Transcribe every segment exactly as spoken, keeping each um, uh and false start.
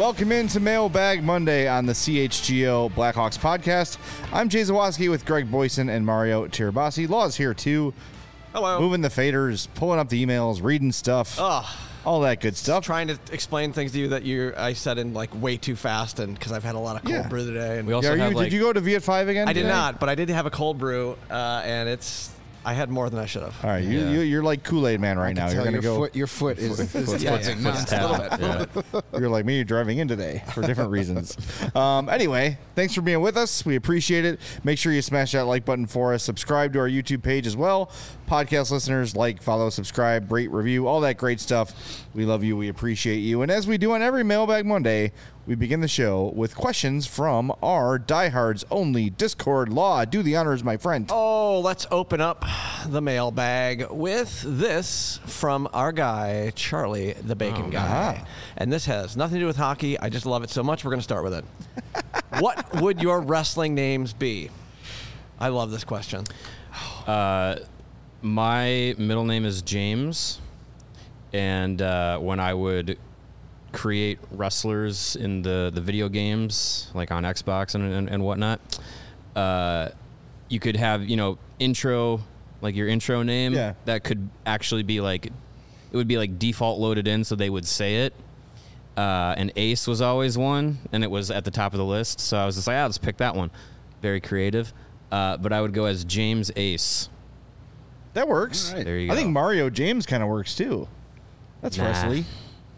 Welcome into Mailbag Monday on the C H G O Blackhawks podcast. I'm Jay Zawoski with Greg Boyson and Mario Tirabassi. Law's here too. Hello. Moving the faders, pulling up the emails, reading stuff, Ugh. all that good stuff. Trying to explain things to you that you I said in like way too fast, and because I've had a lot of cold Yeah. brew today. And We also Yeah, are have you, like, did you go to V at five again? I did today? not, but I did have a cold brew, uh, and it's I had more than I should have. All right, you, Yeah. you, you're like Kool-Aid Man right now. Tell You're gonna your go. Foot, your foot is, is Yeah, twitching yeah, now. just a little bit. yeah. You're like me. You're driving in today for different reasons. Um, anyway, thanks for being with us. We appreciate it. Make sure you smash that like button for us. Subscribe to our YouTube page as well. Podcast listeners, like, follow, subscribe, rate, review, all that great stuff. We love you. We appreciate you. And as we do on every Mailbag Monday, we begin the show with questions from our diehards only Discord. Law, do the honors, my friend. Oh, let's open up the mailbag with this from our guy, Charlie, the Bacon Guy. ah. And this has nothing to do with hockey. I just love it so much. We're going to start with it. What would your wrestling names be? I love this question. Uh, my middle name is James, and uh, when I would create wrestlers in the, the video games, like on Xbox and, and, and whatnot, uh, you could have, you know, intro, like your intro name, Yeah. that could actually be like, it would be like default loaded in so they would say it. Uh, and Ace was always one, and it was at the top of the list. So I was just like, ah, let's pick that one. Very creative. Uh, but I would go as James Ace. That works. All right. There you I go. think Mario James kind of works too. That's Nah. wrestling.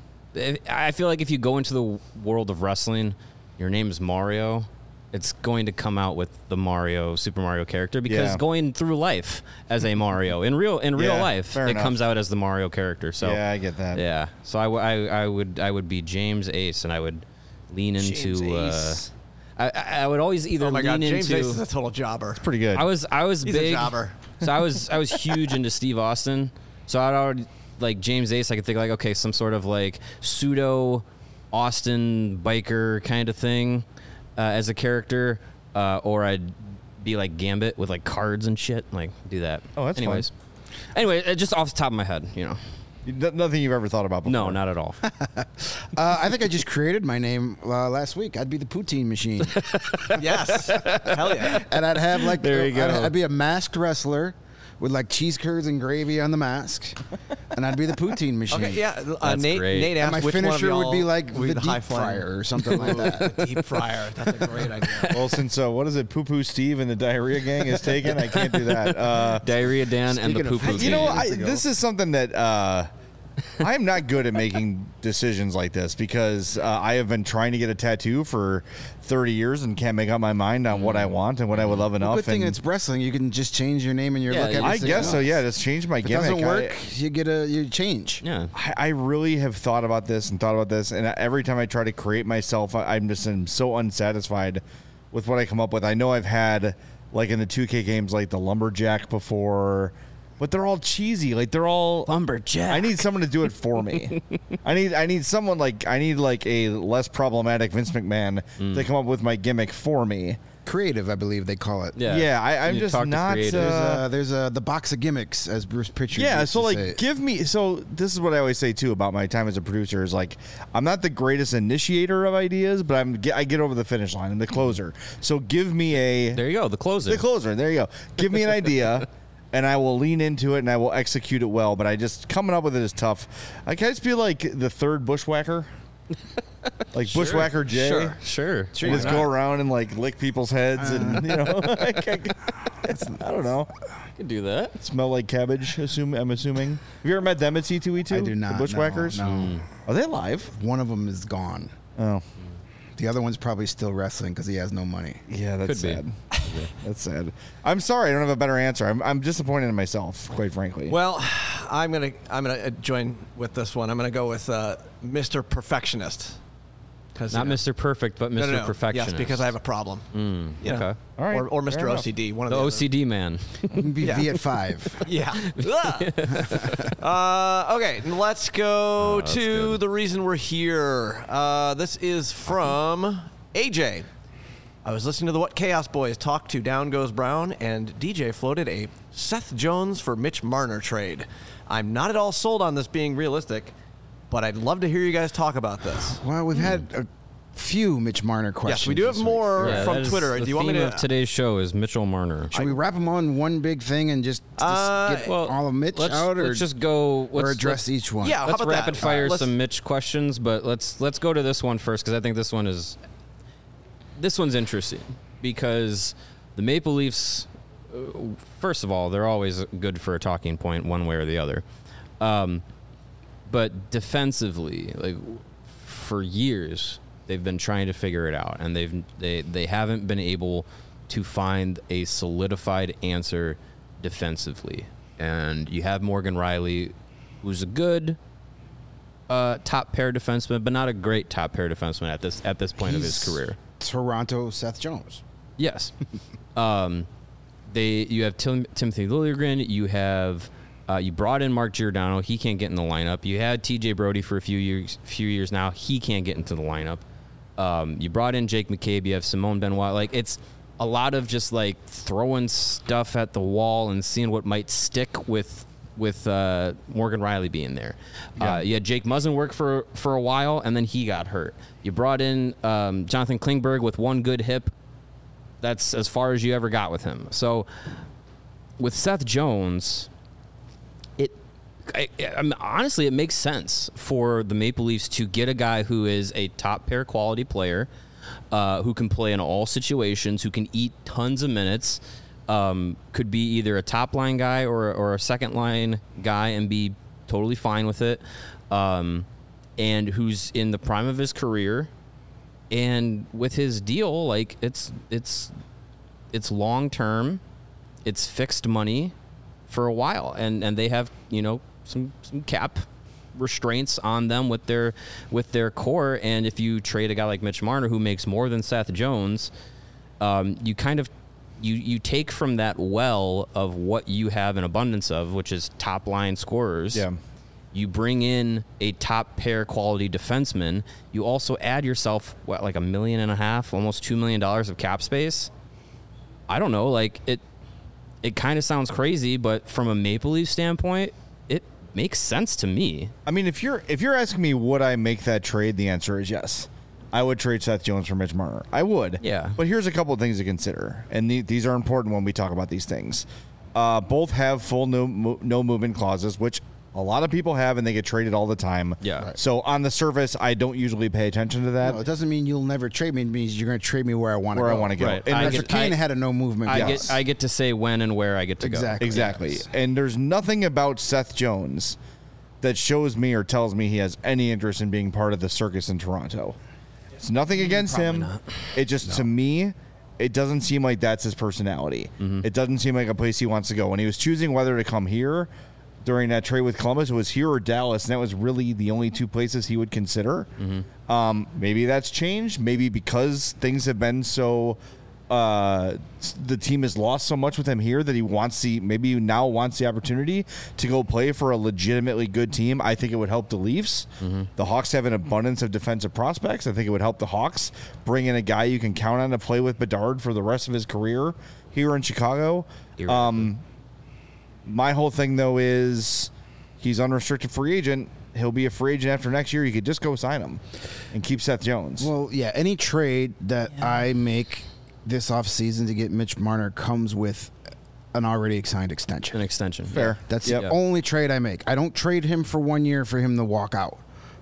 I feel like if you go into the world of wrestling, your name is Mario, it's going to come out with the Mario, Super Mario character, because Yeah. going through life as a Mario in real in real Yeah, life, fair it enough. comes out as the Mario character. So Yeah, I get that. yeah. So I, w- I, I would I would be James Ace, and I would lean into. James Uh, Ace. I, I I would always either Oh my lean God, James into. Ace is a total jobber. Pretty good. I was I was He's a big. jobber. So I was I was huge into Steve Austin. So I'd already like James Ace. I could think like, okay, some sort of like pseudo Austin biker kind of thing uh, as a character, uh, or I'd be like Gambit with like cards and shit. Like do that. Oh, that's fun. anyways. Anyway, uh, just off the top of my head, you know. N- Nothing you've ever thought about before. No, not at all. Uh, I think I just created my name uh, last week. I'd be the poutine machine, Yes. Hell yeah. and I'd have like There you I'd, go. I'd be a masked wrestler with like cheese curds and gravy on the mask, and I'd be the poutine machine. Okay, yeah. Uh, That's Nate, great. Nate And asked my which one of finisher would y'all be like would be the, the high deep fryer flyer. or something like that. The deep fryer. That's a great idea. Well, since uh, what is it, Poo Poo Steve and the Diarrhea Gang is taken, I can't do that. Uh, Diarrhea Dan and the Speaking poo of- poo. you know, Years I, ago. this is something that uh, I'm not good at making decisions like this because uh, I have been trying to get a tattoo for thirty years and can't make up my mind on what I want and what I would love enough. Good thing and it's wrestling. You can just change your name and your Yeah, look. every I six guess so. months. Yeah, just change my If it gimmick. doesn't work, I, you get a you change. Yeah. I I really have thought about this and thought about this, and every time I try to create myself, I, I'm just am so unsatisfied with what I come up with. I know I've had like in the two K games like the Lumberjack before, but they're all cheesy. Like they're all Lumberjack. I need someone to do it for me. I need I need someone like I need like a less problematic Vince McMahon to come up with my gimmick for me. Creative, I believe they call it. Yeah. Yeah, I, I'm You just talk to not. creatives. There's Uh, uh, there's uh, the box of gimmicks, as Bruce Pritchard. Yeah, used so to like say. give me so this is what I always say too about my time as a producer is like I'm not the greatest initiator of ideas, but I'm I get over the finish line and the closer. So give me a There you go. The closer. the closer. There you go. Give me an idea and I will lean into it and I will execute it well, but I just coming up with it is tough. I kind of feel like the third bushwhacker. Like Bushwhacker Jay. Sure. Sure. You just go around and like lick people's heads and you know I don't know. Could do that. Smell like cabbage, assume I'm assuming. Have you ever met them at C two E two? I do not. The Bushwhackers? No, no. Are they alive? One of them is gone. Oh. The other one's probably still wrestling because he has no money. Yeah, that's Could be. sad. That's sad. I'm sorry, I don't have a better answer. I'm, I'm disappointed in myself, quite frankly. Well, I'm gonna I'm gonna uh, join with this one. I'm gonna go with uh, Mister Perfectionist. Cause, Not you know- Mister Perfect, but No, Mister no, no. Perfectionist. Yes, because I have a problem. Mm, You know. okay. All right, Or, or fair Mister enough. O C D. One of The the O other. C D man. You can be Yeah. V at five. Yeah. uh, okay, let's go Oh, that's to good. the reason we're here. Uh, this is from A J. I was listening to the What Chaos Boys talk to Down Goes Brown, and D J floated a Seth Jones for Mitch Marner trade. I'm not at all sold on this being realistic, but I'd love to hear you guys talk about this. Well, we've had a few Mitch Marner questions. Yes, we do have this week. more Yeah, from that is Twitter. The Do you want me theme to? of today's show is Mitchell Marner. Should we wrap them on one big thing and just, just Uh, get Well, all of Mitch let's, out, or, let's just go. or Let's, address let's, each one? Yeah, how let's about rapid that? fire Uh, let's- some Mitch questions, but let's let's go to this one first because I think this one is this one's interesting because the Maple Leafs. uh, First of all, they're always good for a talking point, one way or the other. Um, but defensively, like for years, they've been trying to figure it out, and they've they they haven't been able to find a solidified answer defensively. And you have Morgan Rielly, who's a good uh, top pair defenseman, but not a great top pair defenseman at this at this point of his He's career. Toronto Seth Jones. Yes. um, they you have Tim, Timothy Liljegren. You have uh, you brought in Mark Giordano. He can't get in the lineup. You had T J Brody for a few years. Few years now. He can't get into the lineup. Um, you brought in Jake McCabe. You have Simone Benoit. Like it's a lot of just like throwing stuff at the wall and seeing what might stick with with uh, Morgan Rielly being there. Uh, you had Jake Muzzin work for for a while, and then he got hurt. You brought in um, Jonathan Klingberg with one good hip. That's as far as you ever got with him. So with Seth Jones, it I, I mean, honestly it makes sense for the Maple Leafs to get a guy who is a top pair quality player, uh, who can play in all situations, who can eat tons of minutes, um, could be either a top line guy or or a second line guy and be totally fine with it, um, and who's in the prime of his career. And with his deal, like it's it's it's long term, it's fixed money for a while, and and they have you know some some cap restraints on them with their with their core. And if you trade a guy like Mitch Marner who makes more than Seth Jones, um, you kind of you you take from that well of what you have an abundance of, which is top line scorers. Yeah. You bring in a top pair quality defenseman. You also add yourself what, like a million and a half, almost two million dollars of cap space. I don't know, like it. It kind of sounds crazy, but from a Maple Leaf standpoint, it makes sense to me. I mean, if you're if you're asking me would I make that trade, the answer is yes. I would trade Seth Jones for Mitch Marner. I would. Yeah. But here's a couple of things to consider, and the, these are important when we talk about these things. Uh, both have full no mo- no movement clauses, which a lot of people have, and they get traded all the time. Yeah. Right. So on the surface, I don't usually pay attention to that. No, it doesn't mean you'll never trade me. It means you're going to trade me where I want to go. Where I wanna go. Right. And I that's get- Patrick Kane I- had a no movement I clause. get I get to say when and where I get to Exactly. Exactly. Yes. And there's nothing about Seth Jones that shows me or tells me he has any interest in being part of the circus in Toronto. It's nothing against him. It just, to me, it doesn't seem like that's his personality. It doesn't seem like a place he wants to go. When he was choosing whether to come here during that trade with Columbus, it was here or Dallas, and that was really the only two places he would consider. Um, maybe that's changed. Maybe because things have been so... Uh, the team has lost so much with him here that he wants the maybe now wants the opportunity to go play for a legitimately good team. I think it would help the Leafs. The Hawks have an abundance of defensive prospects. I think it would help the Hawks bring in a guy you can count on to play with Bedard for the rest of his career here in Chicago. Um, my whole thing though is he's unrestricted free agent. He'll be a free agent after next year. You could just go sign him and keep Seth Jones. Well, yeah, any trade that I make this offseason to get Mitch Marner comes with an already signed extension. An extension. Fair. That's Yep. the only trade I make. I don't trade him for one year for him to walk out.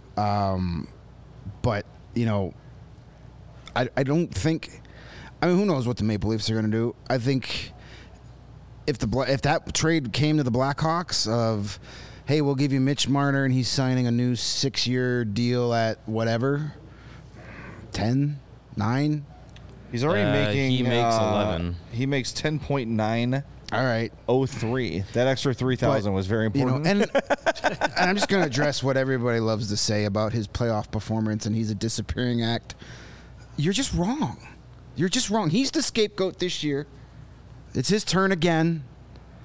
Um, but, you know, I, I don't think... I mean, who knows what the Maple Leafs are going to do. I think if the Bla- if that trade came to the Blackhawks of, hey, we'll give you Mitch Marner and he's signing a new six-year deal at whatever, ten, nine... He's already Uh, making. he makes uh, eleven. He makes ten point nine All right. oh three. That extra three thousand was very You know, important. and, and I'm just going to address what everybody loves to say about his playoff performance and he's a disappearing act. You're just wrong. You're just wrong. He's the scapegoat this year. It's his turn again.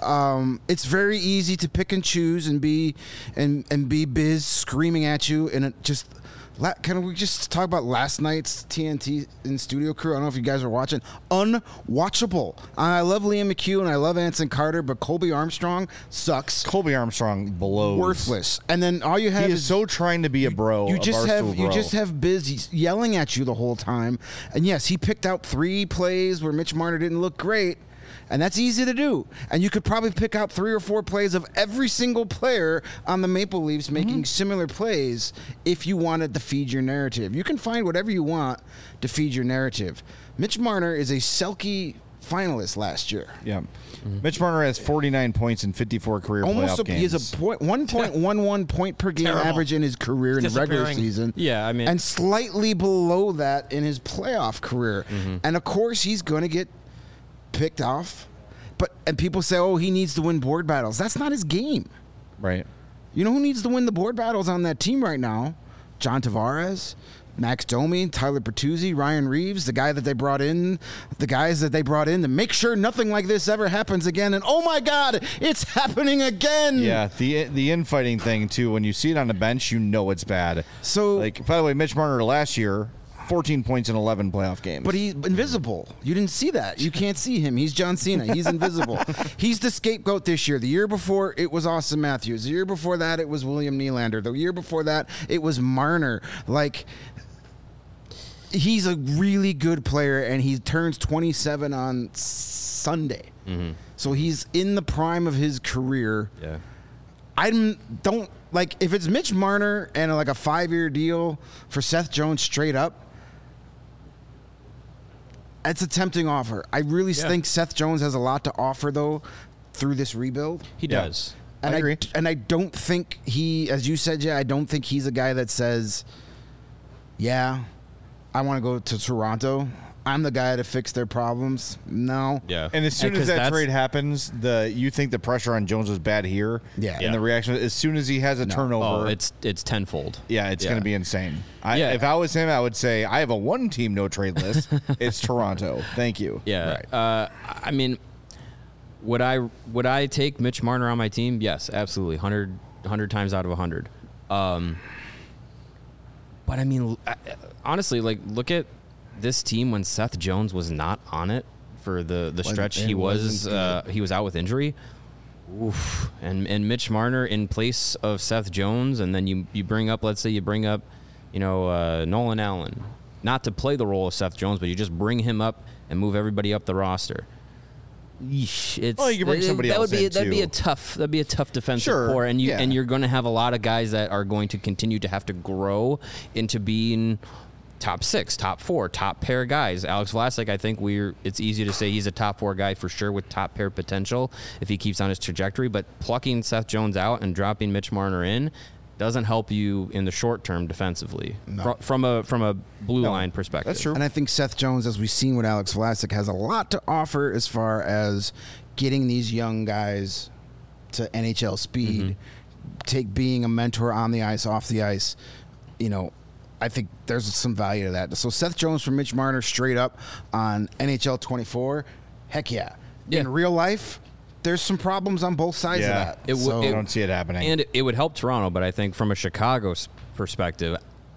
Um, it's very easy to pick and choose and be and and be biz screaming at you, and it just. La- Can we just talk about last night's T N T in Studio Crew? I don't know if you guys are watching. Unwatchable. I love Liam McHugh and I love Anson Carter, but Colby Armstrong sucks. Colby Armstrong blows. Worthless. And then all you have He is so trying to be a bro. You a just Barstool have you bro. just have Biz yelling at you the whole time. And yes, he picked out three plays where Mitch Marner didn't look great. And that's easy to do. And you could probably pick out three or four plays of every single player on the Maple Leafs making mm-hmm. similar plays if you wanted to feed your narrative. You can find whatever you want to feed your narrative. Mitch Marner is a Selke finalist last year. Yeah. Mm-hmm. Mitch Marner has forty-nine points in fifty-four career Almost playoff a, games. He has a point, one point one one point per game Terrible. average in his career in the regular season. Yeah, I mean. And slightly below that in his playoff career. Mm-hmm. And of course, he's going to get picked off. But and people say, oh, he needs to win board battles. That's not his game. Right. You know who needs to win the board battles on that team right now? John Tavares, Max Domi, Tyler Bertuzzi, Ryan Reeves, the guy that they brought in, the guys that they brought in to make sure nothing like this ever happens again. And oh my God, it's happening again. Yeah, the the infighting thing too. When you see it on the bench, you know it's bad. So, like, by the way, Mitch Marner last year, fourteen points in eleven playoff games. But he's invisible. You didn't see that. You can't see him. He's John Cena. He's invisible. He's the scapegoat this year. The year before, it was Austin Matthews. The year before that, it was William Nylander. The year before that, it was Marner. Like, he's a really good player, and he turns twenty-seven on Sunday. Mm-hmm. So he's in the prime of his career. Yeah. I don't, like, if it's Mitch Marner and, like, a five-year deal for Seth Jones straight up, it's a tempting offer. I really yeah. think Seth Jones has a lot to offer, though, through this rebuild. He yeah. does. And I agree. I, and I don't think he, as you said, yeah, I don't think he's a guy that says, yeah, I want to go to Toronto. I'm the guy to fix their problems. No. Yeah. And as soon and as that that's, trade happens, the you think the pressure on Jones was bad here. Yeah. And yeah. the reaction, as soon as he has a No. turnover. Oh, it's it's tenfold. Yeah, it's yeah. going to be insane. I, Yeah. If I was him, I would say, I have a one-team no-trade list. It's Toronto. Thank you. Yeah. Right. Uh, I mean, would I would I take Mitch Marner on my team? Yes, absolutely. one hundred, one hundred times out of one hundred. Um, but I mean, honestly, like, look at this team when Seth Jones was not on it for the, the stretch it he was wasn't uh, he was out with injury. Oof. And and Mitch Marner in place of Seth Jones, and then you you bring up, let's say you bring up, you know, uh, Nolan Allen, not to play the role of Seth Jones, but you just bring him up and move everybody up the roster. Yeesh, it's, Well, you can bring it- somebody that else would be in, that'd be too. a tough that'd be a tough defensive Sure, core, and you yeah. and you're going to have a lot of guys that are going to continue to have to grow into being top six, top four, top pair guys. Alex Vlasic, I think we're it's easy to say he's a top four guy for sure with top pair potential if he keeps on his trajectory, but plucking Seth Jones out and dropping Mitch Marner in doesn't help you in the short term defensively No. Fr- from a from a blue No, line perspective. that's true. And I think Seth Jones, as we've seen with Alex Vlasic, has a lot to offer as far as getting these young guys to N H L speed, mm-hmm. take being a mentor on the ice, off the ice. You know, I think there's some value to that. So Seth Jones for Mitch Marner straight up on N H L twenty-four, heck yeah. Yeah. In real life, there's some problems on both sides Yeah. of that. It w- So- I don't see it happening. And it, it would help Toronto, but I think from a Chicago s- perspective,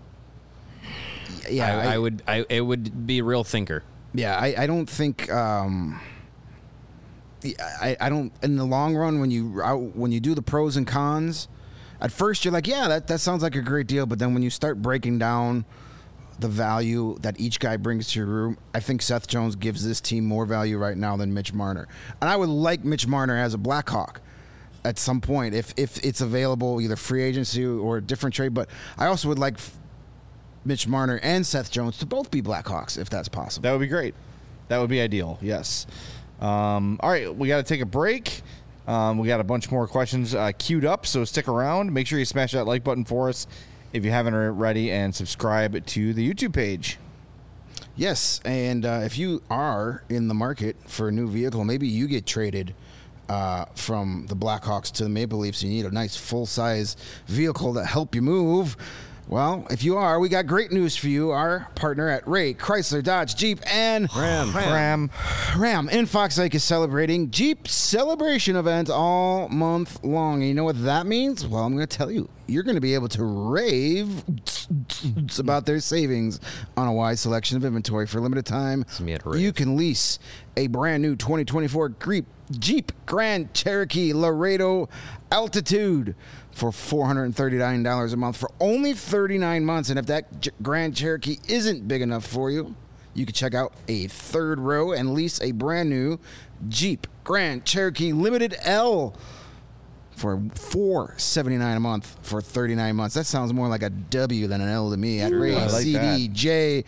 yeah, I, I would I it would be a real thinker. Yeah, I, I don't think um, I, I don't in the long run when you out- when you do the pros and cons, at first you're like, yeah, that, that sounds like a great deal, but then when you start breaking down the value that each guy brings to your room, I think Seth Jones gives this team more value right now than Mitch Marner. And I would like Mitch Marner as a Blackhawk at some point if if it's available, either free agency or a different trade, but I also would like Mitch Marner and Seth Jones to both be Blackhawks if that's possible. That would be great. That would be ideal. Yes. Um, all right, we got to take a break. Um, we got a bunch more questions uh, queued up, so stick around. Make sure you smash that like button for us if you haven't already, and subscribe to the YouTube page. Yes, and uh, if you are in the market for a new vehicle, maybe you get traded uh, from the Blackhawks to the Maple Leafs. You need a nice full-size vehicle to help you move. Well, if you are, we got great news for you. Our partner at Ray Chrysler Dodge Jeep and Ram. Ram. Ram in Fox Lake is celebrating Jeep celebration event all month long. And you know what that means? Well, I'm going to tell you. You're going to be able to rave about their savings on a wide selection of inventory for a limited time. me at rave. You can lease a brand new twenty twenty-four Jeep, Jeep Grand Cherokee Laredo Altitude for four hundred thirty-nine dollars a month for only thirty-nine months. And if that J- Grand Cherokee isn't big enough for you, you can check out a third row and lease a brand new Jeep Grand Cherokee Limited L for four hundred seventy-nine dollars a month for thirty-nine months. That sounds more like a W than an L to me. At I Ray, like C D, J,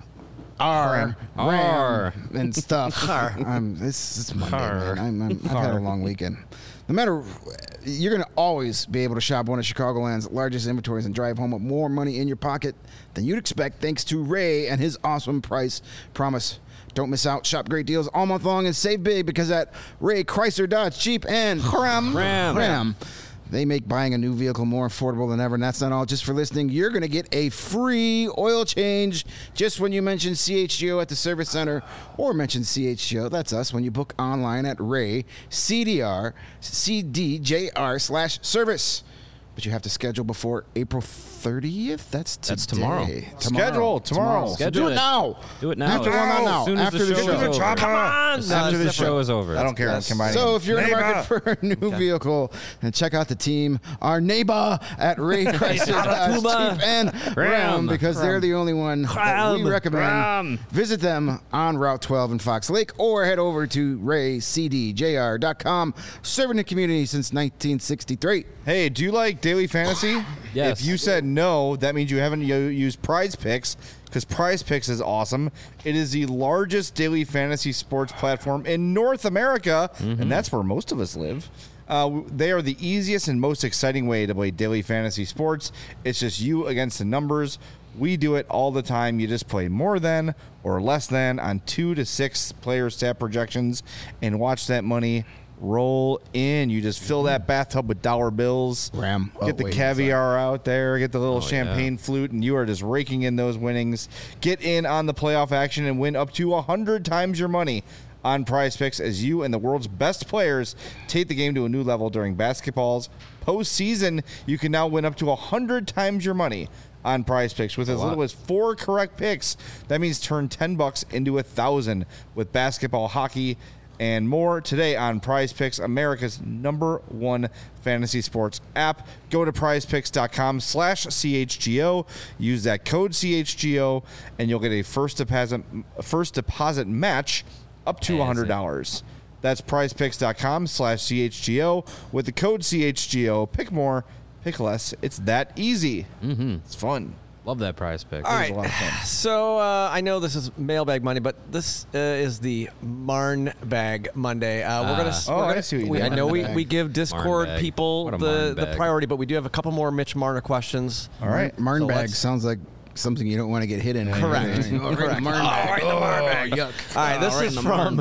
R, R. Ram, and stuff. I'm, it's, it's Monday, R. man. I'm, I'm, I've had a long weekend. No matter, you're going to always be able to shop one of Chicagoland's largest inventories and drive home with more money in your pocket than you'd expect thanks to Ray and his awesome price promise. Don't miss out. Shop great deals all month long and save big because at Ray Chrysler Dodge Jeep and Ram, Ram. Ram, they make buying a new vehicle more affordable than ever. And that's not all. Just for listening, you're going to get a free oil change just when you mention C H G O at the service center or mention C H G O. That's us when you book online at Ray C D R C D J R slash service. But you have to schedule before April thirtieth. That's today. That's tomorrow. Schedule tomorrow. So Schedule do it it. now. Do it now. After, well, not now. As soon as After the the show show. is over. Chopper. As soon After as the the show is over. I don't care. I'm That's- combining. So if you're in the Neighbor. market for a new vehicle, and check out the team, our neighbor at Ray Chrysler Dodge Jeep and Ram, Ram. because they're the only one that we Ram. recommend. Ram. Visit them on Route twelve in Fox Lake or head over to ray c d j r dot com, serving the community since nineteen sixty-three. Hey, do you like daily fantasy? Yes. If you said no, that means you haven't u- used Prize Picks, because Prize Picks is awesome. It is the largest daily fantasy sports platform in North America, and that's where most of us live. Uh, w- they are the easiest and most exciting way to play daily fantasy sports. It's just you against the numbers. We do it all the time. You just play more than or less than on two to six player stat projections and watch that money roll in. You just fill that bathtub with dollar bills. Ram. Get Oh, the wait, caviar out there. Get the little champagne yeah. flute, and you are just raking in those winnings. Get in on the playoff action and win up to one hundred times your money on Prize Picks as you and the world's best players take the game to a new level during basketball's postseason. You can now win up to one hundred times your money on Prize Picks with as little as four correct picks. That means turn ten bucks into a thousand with basketball, hockey, and more today on Prize Picks, America's number one fantasy sports app. Go to prizepicks.com slash CHGO. Use that code C H G O, and you'll get a first deposit first deposit match up to one hundred dollars. That's prizepicks.com slash CHGO. With the code C H G O, pick more, pick less. It's that easy. Mm-hmm. It's fun. Love that Prize Pick. All It right. was a lot of fun. So uh, I know this is Mailbag Monday, but this uh, is the Marn Bag Monday. Uh, we're gonna. Ah. we're Oh, I gonna see what you we, did. I know we, Marn we bag. give Discord Marn bag. people What a the, Marn the bag. priority, but we do have a couple more Mitch Marner questions. All right. Marn So bag let's- sounds like something you don't want to get hit in. Correct. Right? Correct. Marn bag. Oh, yuck. All right, this is from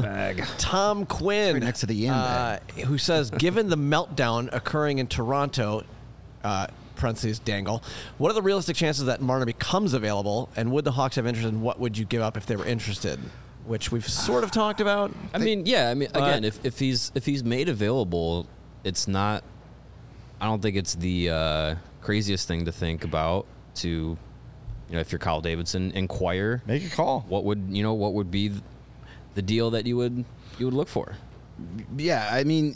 Tom Quinn, right next to the yin uh, who says, given the meltdown occurring in Toronto, uh, parentheses dangle, what are the realistic chances that Marner becomes available, and would the Hawks have interest, and what would you give up if they were interested? Which we've sort of talked about. I mean, yeah. I mean, But- again, if, if he's if he's made available, it's not. I don't think it's the uh, craziest thing to think about. To, you know, if you're Kyle Davidson, inquire Make a call. what would you know what would be the deal that you would you would look for. Yeah, I mean,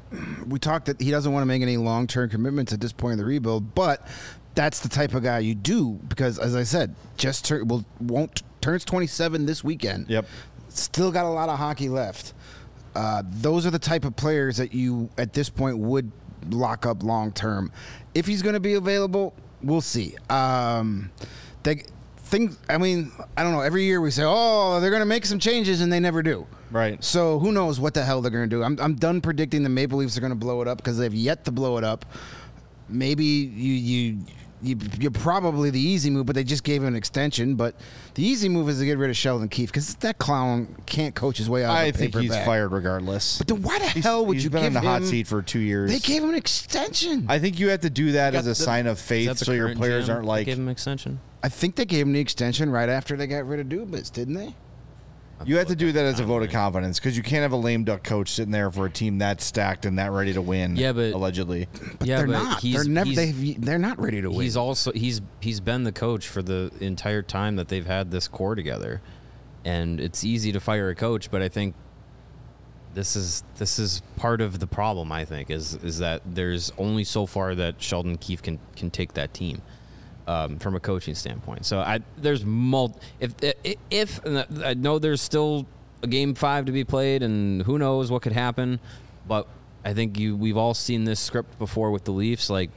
we talked that he doesn't want to make any long-term commitments at this point in the rebuild, but that's the type of guy you do because, as I said, just tur- will won't turns twenty-seven this weekend. Yep. Still got a lot of hockey left. Uh, those are the type of players that you, at this point, would lock up long-term. If he's going to be available, we'll see. Um, they, things, I mean, I don't know. Every year we say, oh, they're going to make some changes, and they never do. Right. So who knows what the hell they're going to do. I'm, I'm done predicting the Maple Leafs are going to blow it up because they've yet to blow it up. Maybe you you you, you're probably the easy move, but they just gave him an extension. But the easy move is to get rid of Sheldon Keefe because that clown can't coach his way out I of the think paper he's bag. fired regardless. But then why the He's- hell would he's you been give in the him? hot seat for two years. They gave him an extension. I, I think you have to do that as a the- sign of Is faith, that the so your current players G M aren't that like. gave him an extension. think they gave him the extension right after they got rid of Dubas, didn't they? You have to do that as a vote of confidence because you can't have a lame duck coach sitting there for a team that stacked and that ready to win. Yeah, but- allegedly, But Yeah, they're but not. he's- They're never. he's- They they're not ready to win. He's also he's he's been the coach for the entire time that they've had this core together, and it's easy to fire a coach, but I think this is this is part of the problem. I think is is that there's only so far that Sheldon Keefe can can take that team. Um, from a coaching standpoint, so I there's mul if if and I know there's still a game five to be played, and who knows what could happen, but I think you we've all seen this script before with the Leafs, like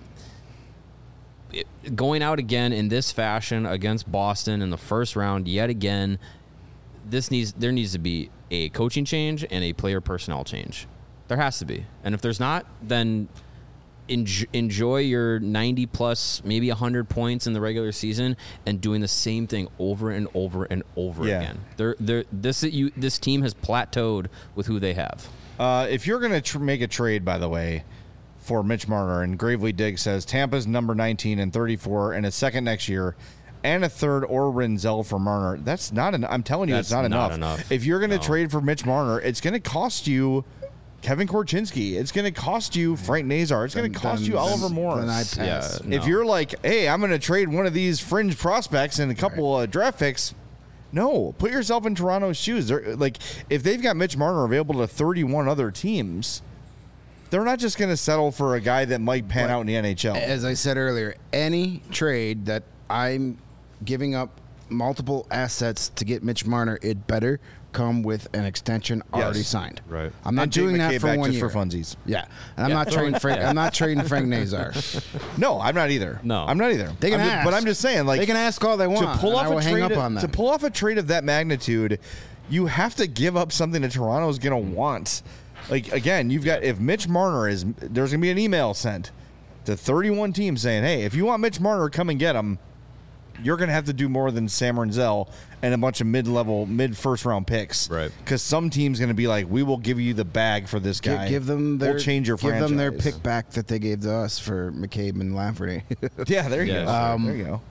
it, going out again in this fashion against Boston in the first round yet again. This needs there needs to be a coaching change and a player personnel change. There has to be, and if there's not, then enjoy, enjoy your ninety plus, maybe one hundred points in the regular season, and doing the same thing over and over and over Yeah. again. They're, they're, this you this team has plateaued with who they have. uh, if you're going to tr- make a trade, by the way, for Mitch Marner, and Gravely Dig says Tampa's number nineteen and thirty-four and a second next year, and a third or Renzel for Marner. That's not enough. I'm telling you, That's it's not, not enough. enough. If you're going to No. trade for Mitch Marner, it's going to cost you Kevin Korchinski. It's going to cost you Frank Nazar. It's going to cost Then- you Oliver then- Morris. Then I pass. Yeah. If No. you're like, hey, I'm going to trade one of these fringe prospects and a couple of draft picks, no, put yourself in Toronto's shoes. They're, like, if they've got Mitch Marner available to thirty-one other teams, they're not just going to settle for a guy that might pan But out in the N H L. As I said earlier, any trade that I'm giving up multiple assets to get Mitch Marner, it better come with an extension already Yes. signed. Right. I'm not And Jake doing that McCabe for back one just year. for funsies. Yeah, and I'm not trading Frank. I'm not trading Frank Nazar. No, I'm not either. No. I'm not either. They can I'm ju- ask, but I'm just saying, like, they can ask all they want. to pull and off I will a hang trade up on them. to pull off a trade of that magnitude, you have to give up something that Toronto's going to want. Like, again, you've got if Mitch Marner is there's going to be an email sent to thirty-one teams saying, "Hey, if you want Mitch Marner, come and get him." You're going to have to do more than Sam Renzel and a bunch of mid-level, mid-first round picks, Right. Because some team's going to be like, "We will give you the bag for this Gi- guy. give them their we'll change your give franchise." them their pick back that they gave to us for McCabe and Lafferty. Yeah, there you Yeah, go. sure. Um, there you go.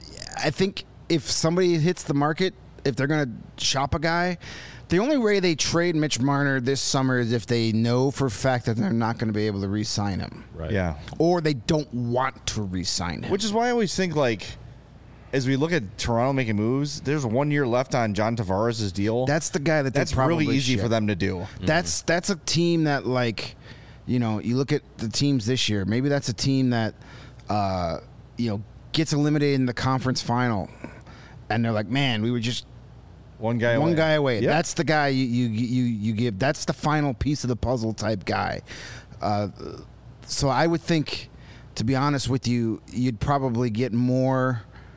I think if somebody hits the market, if they're going to shop a guy, the only way they trade Mitch Marner this summer is if they know for a fact that they're not going to be able to re-sign him, Right. Yeah. or they don't want to re-sign him. Which is why I always think, like, as we look at Toronto making moves, there's one year left on John Tavares' deal. That's the guy that they That's probably really easy ship. for them to do. That's that's a team that, like, you know, you look at the teams this year. Maybe that's a team that, uh, you know, gets eliminated in the conference final, and they're like, man, we were just One guy one away. guy away. Yep. That's the guy you, you you you give. That's the final piece of the puzzle type guy. Uh, so I would think, to be honest with you, you'd probably get more.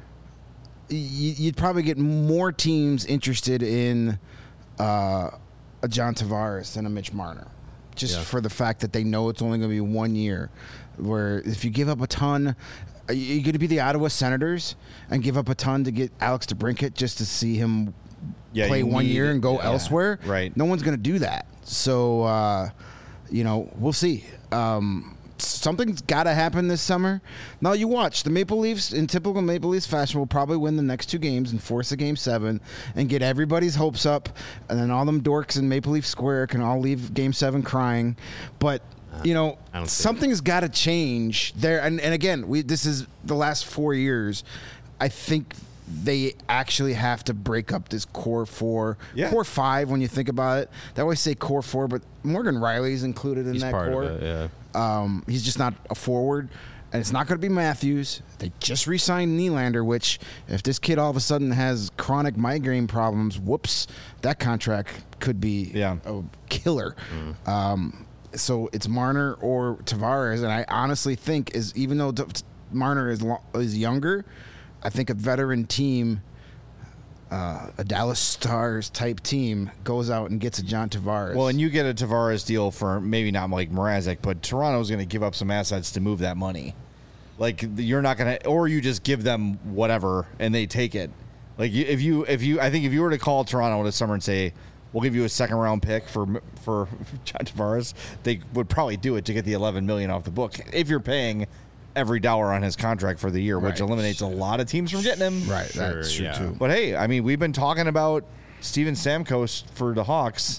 you- You'd probably get more teams interested in uh, a John Tavares than a Mitch Marner, just Yeah. for the fact that they know it's only going to be one year. Where if you give up a ton, are you going to be the Ottawa Senators and give up a ton to get Alex DeBrincat just to see him Yeah, play you one need year it. and go Yeah. elsewhere? Right. No one's going to do that. So, uh, you know, we'll see. Um, something's got to happen this summer. Now, you watch. The Maple Leafs, in typical Maple Leafs fashion, will probably win the next two games and force a game seven and get everybody's hopes up. And then all them dorks in Maple Leaf Square can all leave game seven crying. But, you know, I don't see something's got to change there. And, and again, we this is the last four years. I think they actually have to break up this core four, Yeah. core five. When you think about it, they always say core four, but Morgan Riley's included in He's that part core. of it. Yeah. Um, he's just not a forward, and it's not going to be Matthews. They just re-signed Nylander, which if this kid all of a sudden has chronic migraine problems, whoops, that contract could be Yeah. a killer. Um, so it's Marner or Tavares, and I honestly think is even though T- Marner is lo- is younger, I think a veteran team, uh, a Dallas Stars type team, goes out and gets a John Tavares. Well, and you get a Tavares deal for maybe not like Mrazek, but Toronto's going to give up some assets to move that money. Like you're not gonna, or you just give them whatever and they take it. Like you, if you, if you, I think if you were to call Toronto this summer and say, we'll give you a second round pick for for John Tavares, they would probably do it to get the eleven million off the book. If you're paying every dollar on his contract for the year, which Right. eliminates a lot of teams from getting him. Right, that's Sure, true yeah. too. But hey, I mean, we've been talking about Steven Stamkos for the Hawks.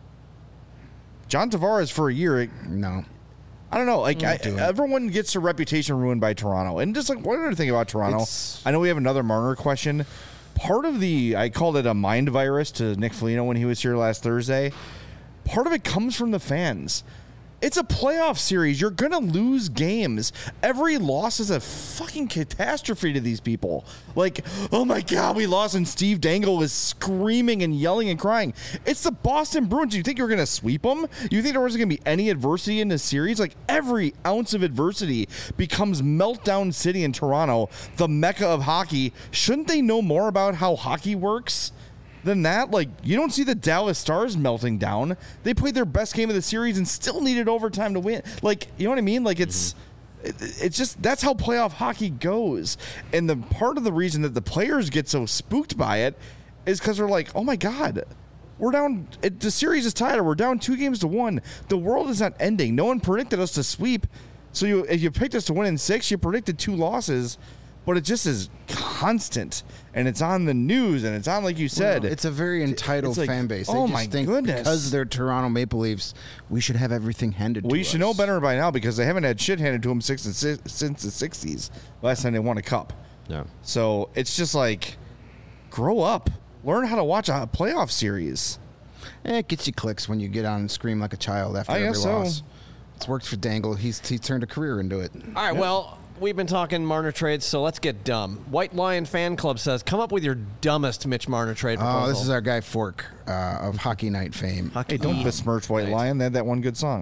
John Tavares for a year. No. I don't know. Like I, do it. everyone gets their reputation ruined by Toronto, and just like one other thing about Toronto, It's- I know we have another Marner question. Part of the I called it a mind virus to Nick Foligno when he was here last Thursday. Part of it comes from the fans. It's a playoff series. You're going to lose games. Every loss is a fucking catastrophe to these people. Like, oh my God, we lost, and Steve Dangle is screaming and yelling and crying. It's the Boston Bruins. You think you're going to sweep them? You think there wasn't going to be any adversity in this series? Like, every ounce of adversity becomes meltdown city in Toronto, the mecca of hockey. Shouldn't they know more about how hockey works than that? Like, you don't see the Dallas Stars melting down. They played their best game of the series and still needed overtime to win. Like, you know what I mean? Like, it's it, it's just that's how playoff hockey goes. And the part of the reason that the players get so spooked by it is because they're like, oh my God, we're down. It, the series is tied, or we're down two games to one. The world is not ending. No one predicted us to sweep. So you, if you picked us to win in six, you predicted two losses. But it just is constant, and it's on the news, and it's on, like you said. It's a very entitled It's like, fan base. They oh just my think goodness. because they're Toronto Maple Leafs, we should have everything handed to we us. should know better by now because they haven't had shit handed to them since the, si- since the sixties, last time they won a cup. Yeah. So it's just like, grow up. Learn how to watch a playoff series. Eh, it gets you clicks when you get on and scream like a child after I every guess so. loss. It's worked for Dangle. He's he's turned a career into it. All right, well, we've been talking Marner trades, so let's get dumb. White Lion Fan Club says, come up with your dumbest Mitch Marner trade proposal. Oh, this is our guy Fork uh, of Hockey Night fame. Hey, don't besmirch White Right. Lion. They had that one good song.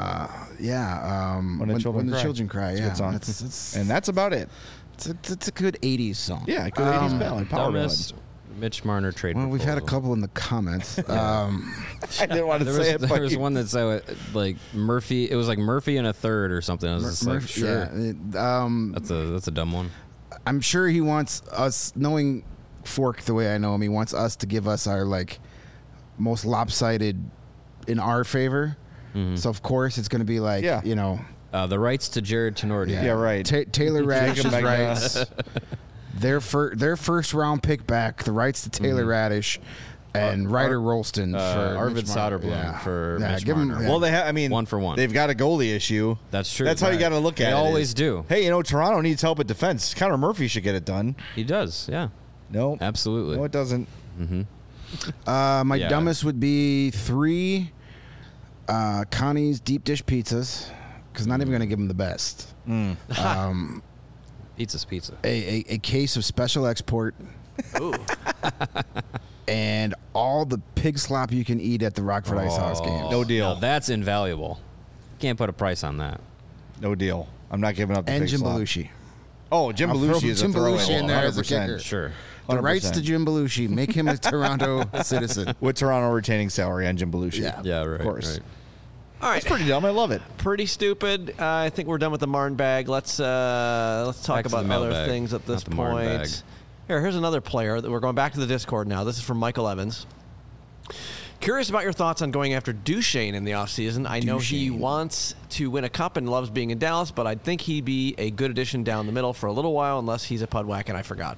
Yeah, um, When the Children when Cry. the children cry. It's a Yeah, good song. It's, it's, and that's about it. it's, a, it's a good eighties song. Yeah, good eighties Um, ballad, power ballad. Dumbest Mitch Marner trade. Well, we've had a proposal. couple in the comments. Um, I didn't want to There say was, it, there but was one that said like Murphy. It was like Murphy and a third or something. I was just like, Murph- sure, yeah, it- um, that's a that's a dumb one. I'm sure he wants us, knowing Fork the way I know him, he wants us to give us our like most lopsided in our favor. So of course it's going to be like, Yeah. you know, Uh, the rights to Jared Tenorti. Yeah, right. Ta- Taylor Radish's Jacob Magna. rights, their fir- their first round pick back, the rights to Taylor Radish, and Ryder Rolston uh, for Arvid Mitch Marner. Soderblom for yeah, Mitch give him, Marner. yeah. Well, they have. I mean, One for one. They've got a goalie issue. That's true. That's how you Right. got to look at They it. always is, do. Hey, you know, Toronto needs help at defense. Connor Murphy should get it done. He does. Yeah, No, absolutely. no, it doesn't. Uh, my Yeah. dumbest would be three uh, Connie's deep dish pizzas, because not even going to give them the best. Um, Pizza's pizza. a, a, a case of special export, Ooh. and all the pig slop you can eat at the Rockford Ice House games. No deal. Now that's invaluable. Can't put a price on that. No deal. I'm not giving up the And big Jim slot. Belushi. Oh, Jim I'll throw Belushi is Jim a throwaway. Belushi in there as a one hundred percent. kicker. Sure. The one hundred rights to percent. Jim Belushi make him a Toronto citizen. With Toronto retaining salary on Jim Belushi. Yeah. Yeah, right. Of course. Right. All right, It's pretty dumb. I love it. pretty stupid. Uh, I think we're done with the Marn bag. Let's uh, let's talk Back to about the other mailbag, things at this not the Marn point. bag. Here, here's another player that we're going back to the Discord now. This is from Michael Evans. Curious about your thoughts on going after Duchesne in the offseason. I know he Duchesne. wants to win a cup and loves being in Dallas, but I think he'd be a good addition down the middle for a little while, unless he's a pudwhack and I forgot.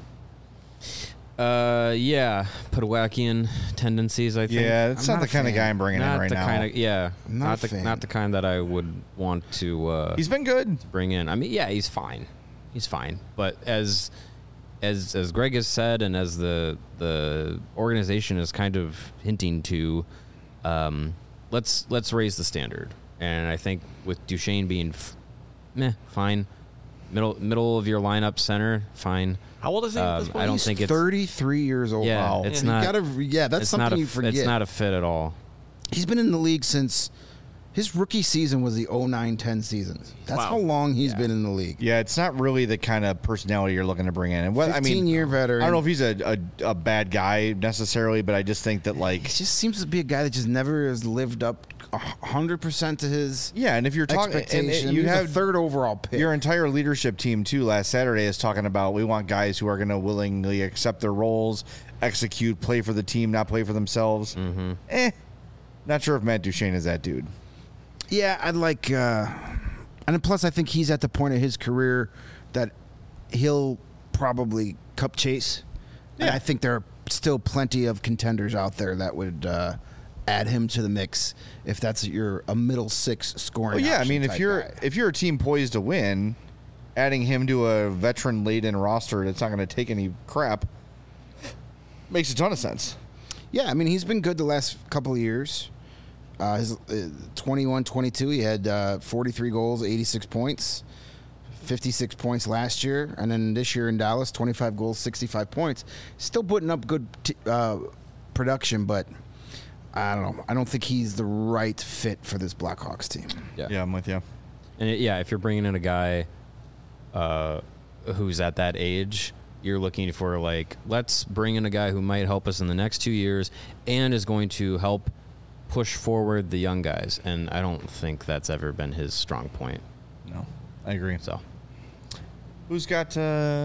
Uh, yeah, Podwackian tendencies. I think. Yeah, it's I'm not, not the a kind of fan. guy I'm bringing not in right the now. kind of yeah, I'm not not, a the fan. not the kind that I would want to uh, He's been good. bring in. I mean, yeah, he's fine, he's fine. But as as as Greg has said, and as the the organization is kind of hinting to, um, let's let's raise the standard. And I think with Duchesne being, f- meh, fine, middle middle of your lineup center, fine. How old is he at this Um, point? I don't He's think it's thirty-three years old. Yeah, Wow. it's You not- Gotta, yeah, that's it's something not a, you f- forget. It's not a fit at all. He's been in the league since his rookie season was the oh nine ten season. That's Wow. how long he's Yeah. been in the league. Yeah, it's not really the kind of personality you're looking to bring in. And what I mean, fifteen-year veteran. I don't know if he's a, a a bad guy necessarily, but I just think that like He just seems to be a guy that just never has lived up one hundred percent to his Yeah, and if you're talking, and expectation. it- you He was have a third overall pick. your entire leadership team too. Last Saturday is talking about we want guys who are going to willingly accept their roles, execute, play for the team, not play for themselves. Mm-hmm. Eh, not sure if Matt Duchene is that dude. Yeah, I'd like, uh, and plus I think he's at the point of his career that he'll probably cup chase. And Yeah. I think there are still plenty of contenders out there that would uh, add him to the mix if that's your a middle six scoring. Well, yeah, I option mean, if type you're guy. if you're a team poised to win, adding him to a veteran laden roster that's not going to take any crap makes a ton of sense. Yeah, I mean, he's been good the last couple of years. Uh, his uh, twenty-one twenty-two, he had uh, forty-three goals, eighty-six points, fifty-six points last year. And then this year in Dallas, twenty-five goals, sixty-five points. Still putting up good t- uh, production, but I don't know. I don't think he's the right fit for this Blackhawks team. Yeah, I'm with you. And it, yeah, if you're bringing in a guy uh, who's at that age, you're looking for, like, let's bring in a guy who might help us in the next two years and is going to help push forward the young guys. And I don't think that's ever been his strong point. No, I agree. So Who's got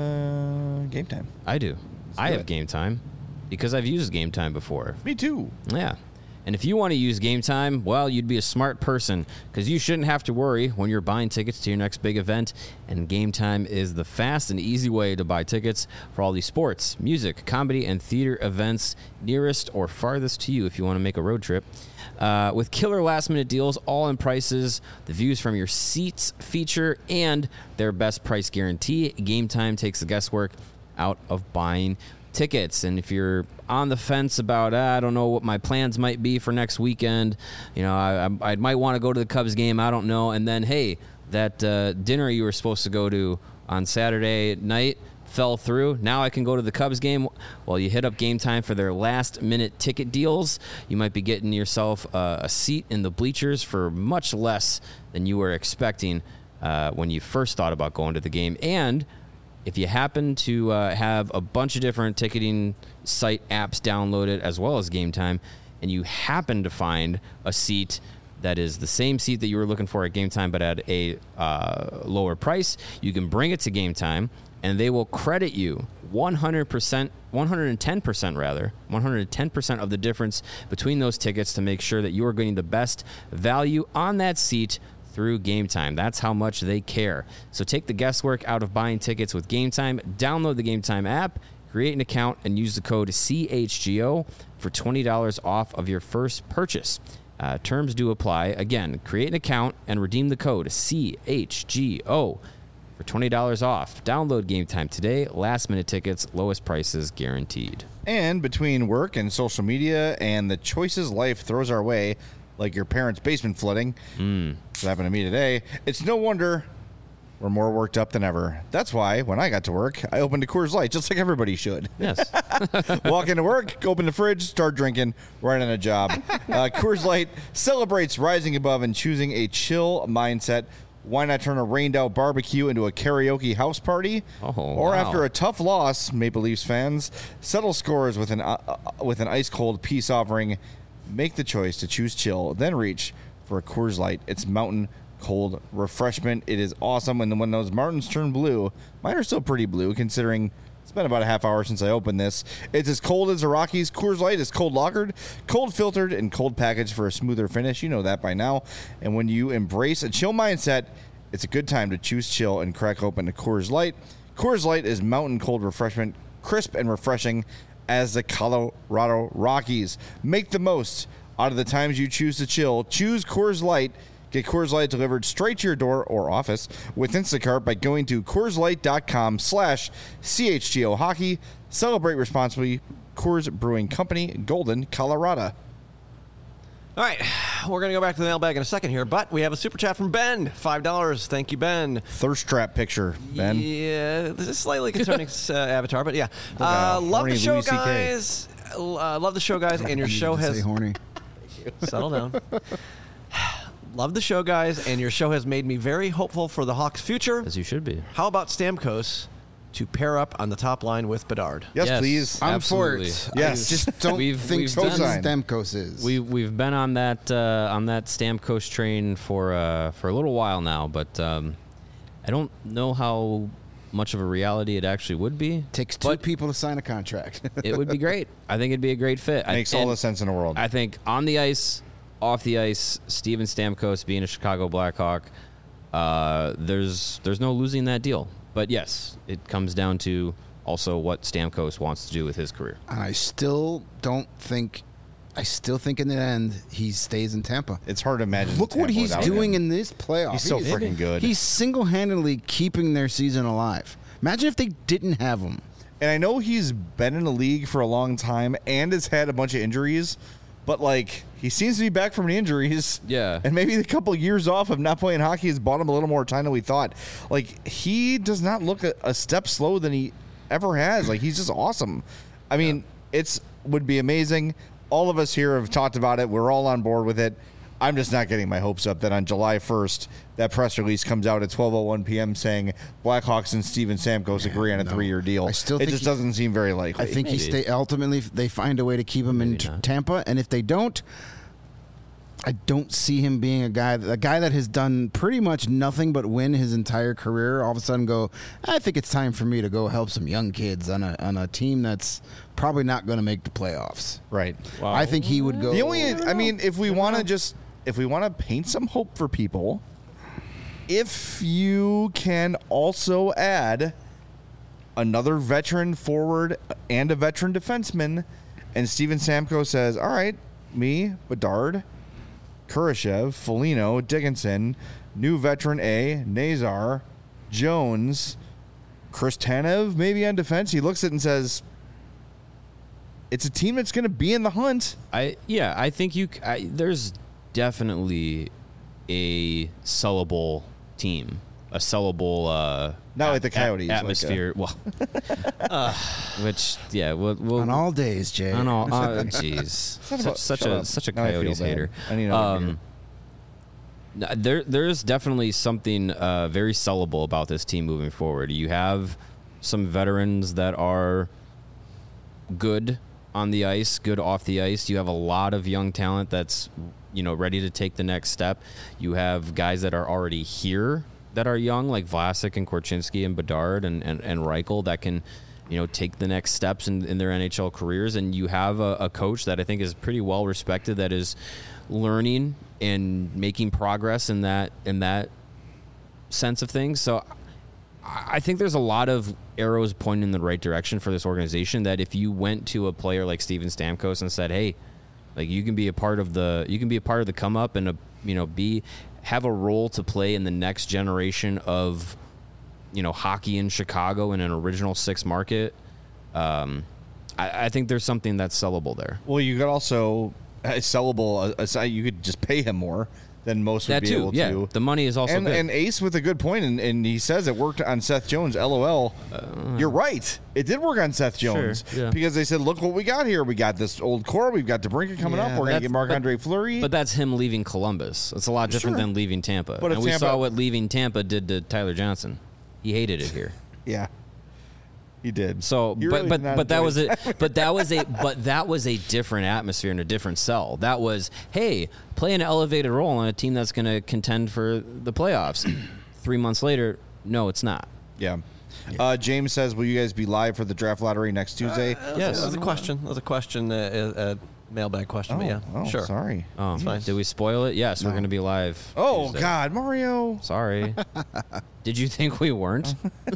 uh, game time? I do. I do have it. game time because I've used game time before. Me too. Yeah. And if you want to use Game Time, well, you'd be a smart person because you shouldn't have to worry when you're buying tickets to your next big event. And Game Time is the fast and easy way to buy tickets for all these sports, music, comedy, and theater events nearest or farthest to you if you want to make a road trip. Uh, with killer last-minute deals, all-in prices, the views from your seats feature, and their best price guarantee, Game Time takes the guesswork out of buying tickets. And if you're on the fence about, ah, I don't know what my plans might be for next weekend, you know, I, I, I might want to go to the Cubs game, I don't know. And then, hey, that uh, dinner you were supposed to go to on Saturday night fell through. Now I can go to the Cubs game. Well, you hit up Game Time for their last-minute ticket deals. You might be getting yourself uh, a seat in the bleachers for much less than you were expecting uh, when you first thought about going to the game. And if you happen to uh, have a bunch of different ticketing site apps downloaded as well as Game Time, and you happen to find a seat that is the same seat that you were looking for at Game Time but at a uh, lower price, you can bring it to Game Time, and they will credit you one hundred percent, one hundred ten percent rather, one hundred ten percent of the difference between those tickets to make sure that you are getting the best value on that seat through Game Time. That's how much they care. So take the guesswork out of buying tickets with Game Time. Download the Game Time app, create an account, and use the code C H G O for twenty dollars off of your first purchase. Uh, terms do apply. Again, create an account and redeem the code C H G O for twenty dollars off. Download Game Time today. Last minute tickets, lowest prices guaranteed. And between work and social media and the choices life throws our way, like your parents' basement flooding, mm. that happened to me today, it's no wonder we're more worked up than ever. That's why, when I got to work, I opened a Coors Light, just like everybody should. Yes. Walk into work, open the fridge, start drinking, right on a job. Uh, Coors Light celebrates rising above and choosing a chill mindset. Why not turn a rained-out barbecue into a karaoke house party? Oh, or wow. after a tough loss, Maple Leafs fans, settle scores with an uh, uh, with an ice-cold peace offering. Make the choice to choose chill, then reach for a Coors Light. It's mountain cold refreshment. It is awesome. And when those Martins turn blue, mine are still pretty blue considering it's been about a half hour since I opened this. It's as cold as a Rockies. Coors Light is cold lagered, cold filtered, and cold packaged for a smoother finish. You know that by now. And when you embrace a chill mindset, it's a good time to choose chill and crack open a Coors Light. Coors Light is mountain cold refreshment, crisp and refreshing as the Colorado Rockies. Make the most out of the times you choose to chill. Choose Coors Light. Get Coors Light delivered straight to your door or office with Instacart by going to CoorsLight.com slash CHGO Hockey. Celebrate responsibly. Coors Brewing Company, Golden, Colorado. All right, we're going to go back to the mailbag in a second here, but we have a super chat from Ben. five dollars. Thank you, Ben. Thirst trap picture, Ben. Yeah, this is slightly concerning uh, avatar, but yeah. Like Uh, a love horny the show, Louis C K. guys. Uh, love the show, guys, and your I needed show to has... say horny. Settle down. Love the show, guys, and your show has made me very hopeful for the Hawks' future. As you should be. How about Stamkos to pair up on the top line with Bedard. Yes, Yes. please. I'm Absolutely. for it. Yes. I just don't We've- think we've Steven done- Stamkos is. We we've been on that uh, on that Stamkos train for uh, for a little while now, but um, I don't know how much of a reality it actually would be. Takes two but people to sign a contract. it would be great. I think it'd be a great fit. I- Makes all and the sense in the world. I think on the ice, off the ice, Steven Stamkos being a Chicago Blackhawk, uh, there's there's no losing that deal. But yes, it comes down to also what Stamkos wants to do with his career. And I still don't think. I still think in the end he stays in Tampa. It's hard to imagine. Look what Tampa he's without doing him. in this playoff. He's so He- freaking good. He's single-handedly keeping their season alive. Imagine if they didn't have him. And I know he's been in the league for a long time and has had a bunch of injuries, but like he seems to be back from the injuries. Yeah. And maybe the couple years off of not playing hockey has bought him a little more time than we thought. Like he does not look a, a step slower than he ever has. Like he's just awesome. I mean, it's would be amazing. All of us here have talked about it. We're all on board with it. I'm just not getting my hopes up that on July first, that press release comes out at twelve oh one p.m. saying Blackhawks and Steven Stamkos agree on a no. three-year deal. I still it think just he- doesn't seem very likely. I think he Maybe. stay. Ultimately, they find a way to keep him in Maybe t- not. Tampa, and if they don't, I don't see him being a guy, a guy that has done pretty much nothing but win his entire career. All of a sudden, go. I think it's time for me to go help some young kids on a on a team that's probably not going to make the playoffs. right. I think he would go. The only, I mean, if we want to just, if we want to paint some hope for people, if you can also add another veteran forward and a veteran defenseman, and Steven Stamkos says, all right, me, Bedard, Kurashev, Foligno, Dickinson, new veteran A, Nazar, Jones, Chris Tanev, maybe on defense. He looks at it and says, it's a team that's going to be in the hunt. I yeah, I think you. c- I, there's definitely a sellable team, a sellable. Uh, Not like the at- Coyotes, like a- atmosphere. well, uh, which yeah, we'll, we'll on all days, Jay. I know. Uh, Jeez, not such, about- such shut a up. such a Now I feel Coyotes bad. hater. I need another beer. Um, n- there there's definitely something uh, very sellable about this team moving forward. You have some veterans that are good on the ice, good off the ice. You have a lot of young talent that's, you know, ready to take the next step. You have guys that are already here that are young, like Vlasic and Korchinski and Bedard and, and, and Reichel, that can, you know, take the next steps in, in their N H L careers. And you have a, a coach that I think is pretty well respected, that is learning and making progress in that in that sense of things. So I think there's a lot of arrows pointing in the right direction for this organization, that if you went to a player like Steven Stamkos and said, hey, like you can be a part of the you can be a part of the come up and a, you know, be have a role to play in the next generation of, you know, hockey in Chicago in an original six market. Um, I, I think there's something that's sellable there. Well, you could also uh, sellable. Uh, aside, you could just pay him more than most would That be too, able yeah. to. The money is also and, good. and Ace with a good point, and, and he says it worked on Seth Jones. LOL. You're right. It did work on Seth Jones Uh, Sure, yeah. because they said, "Look what we got here. We got this old core. We've got DeBrincat coming Yeah, up. We're gonna that's- get Marc but- Andre Fleury." But that's him leaving Columbus. It's a lot different Sure. than leaving Tampa. But if and we Tampa- saw what leaving Tampa did to Tyler Johnson. He hated it here. yeah, he did. So, You but really but did not but that enjoy was it. a but that was a but that was a different atmosphere and a different sell. That was, hey, play an elevated role on a team that's going to contend for the playoffs. Three months later, no, it's not. Yeah. Uh, James says, "Will you guys be live for the draft lottery next Tuesday?" Yes. That was a question. That was a question, uh, a, a mailbag question. but yeah, oh, sure. Sorry. Oh, fine. did we spoil it? Yes, we're going to be live. Oh Tuesday. God, Mario. Sorry. Did you think we weren't?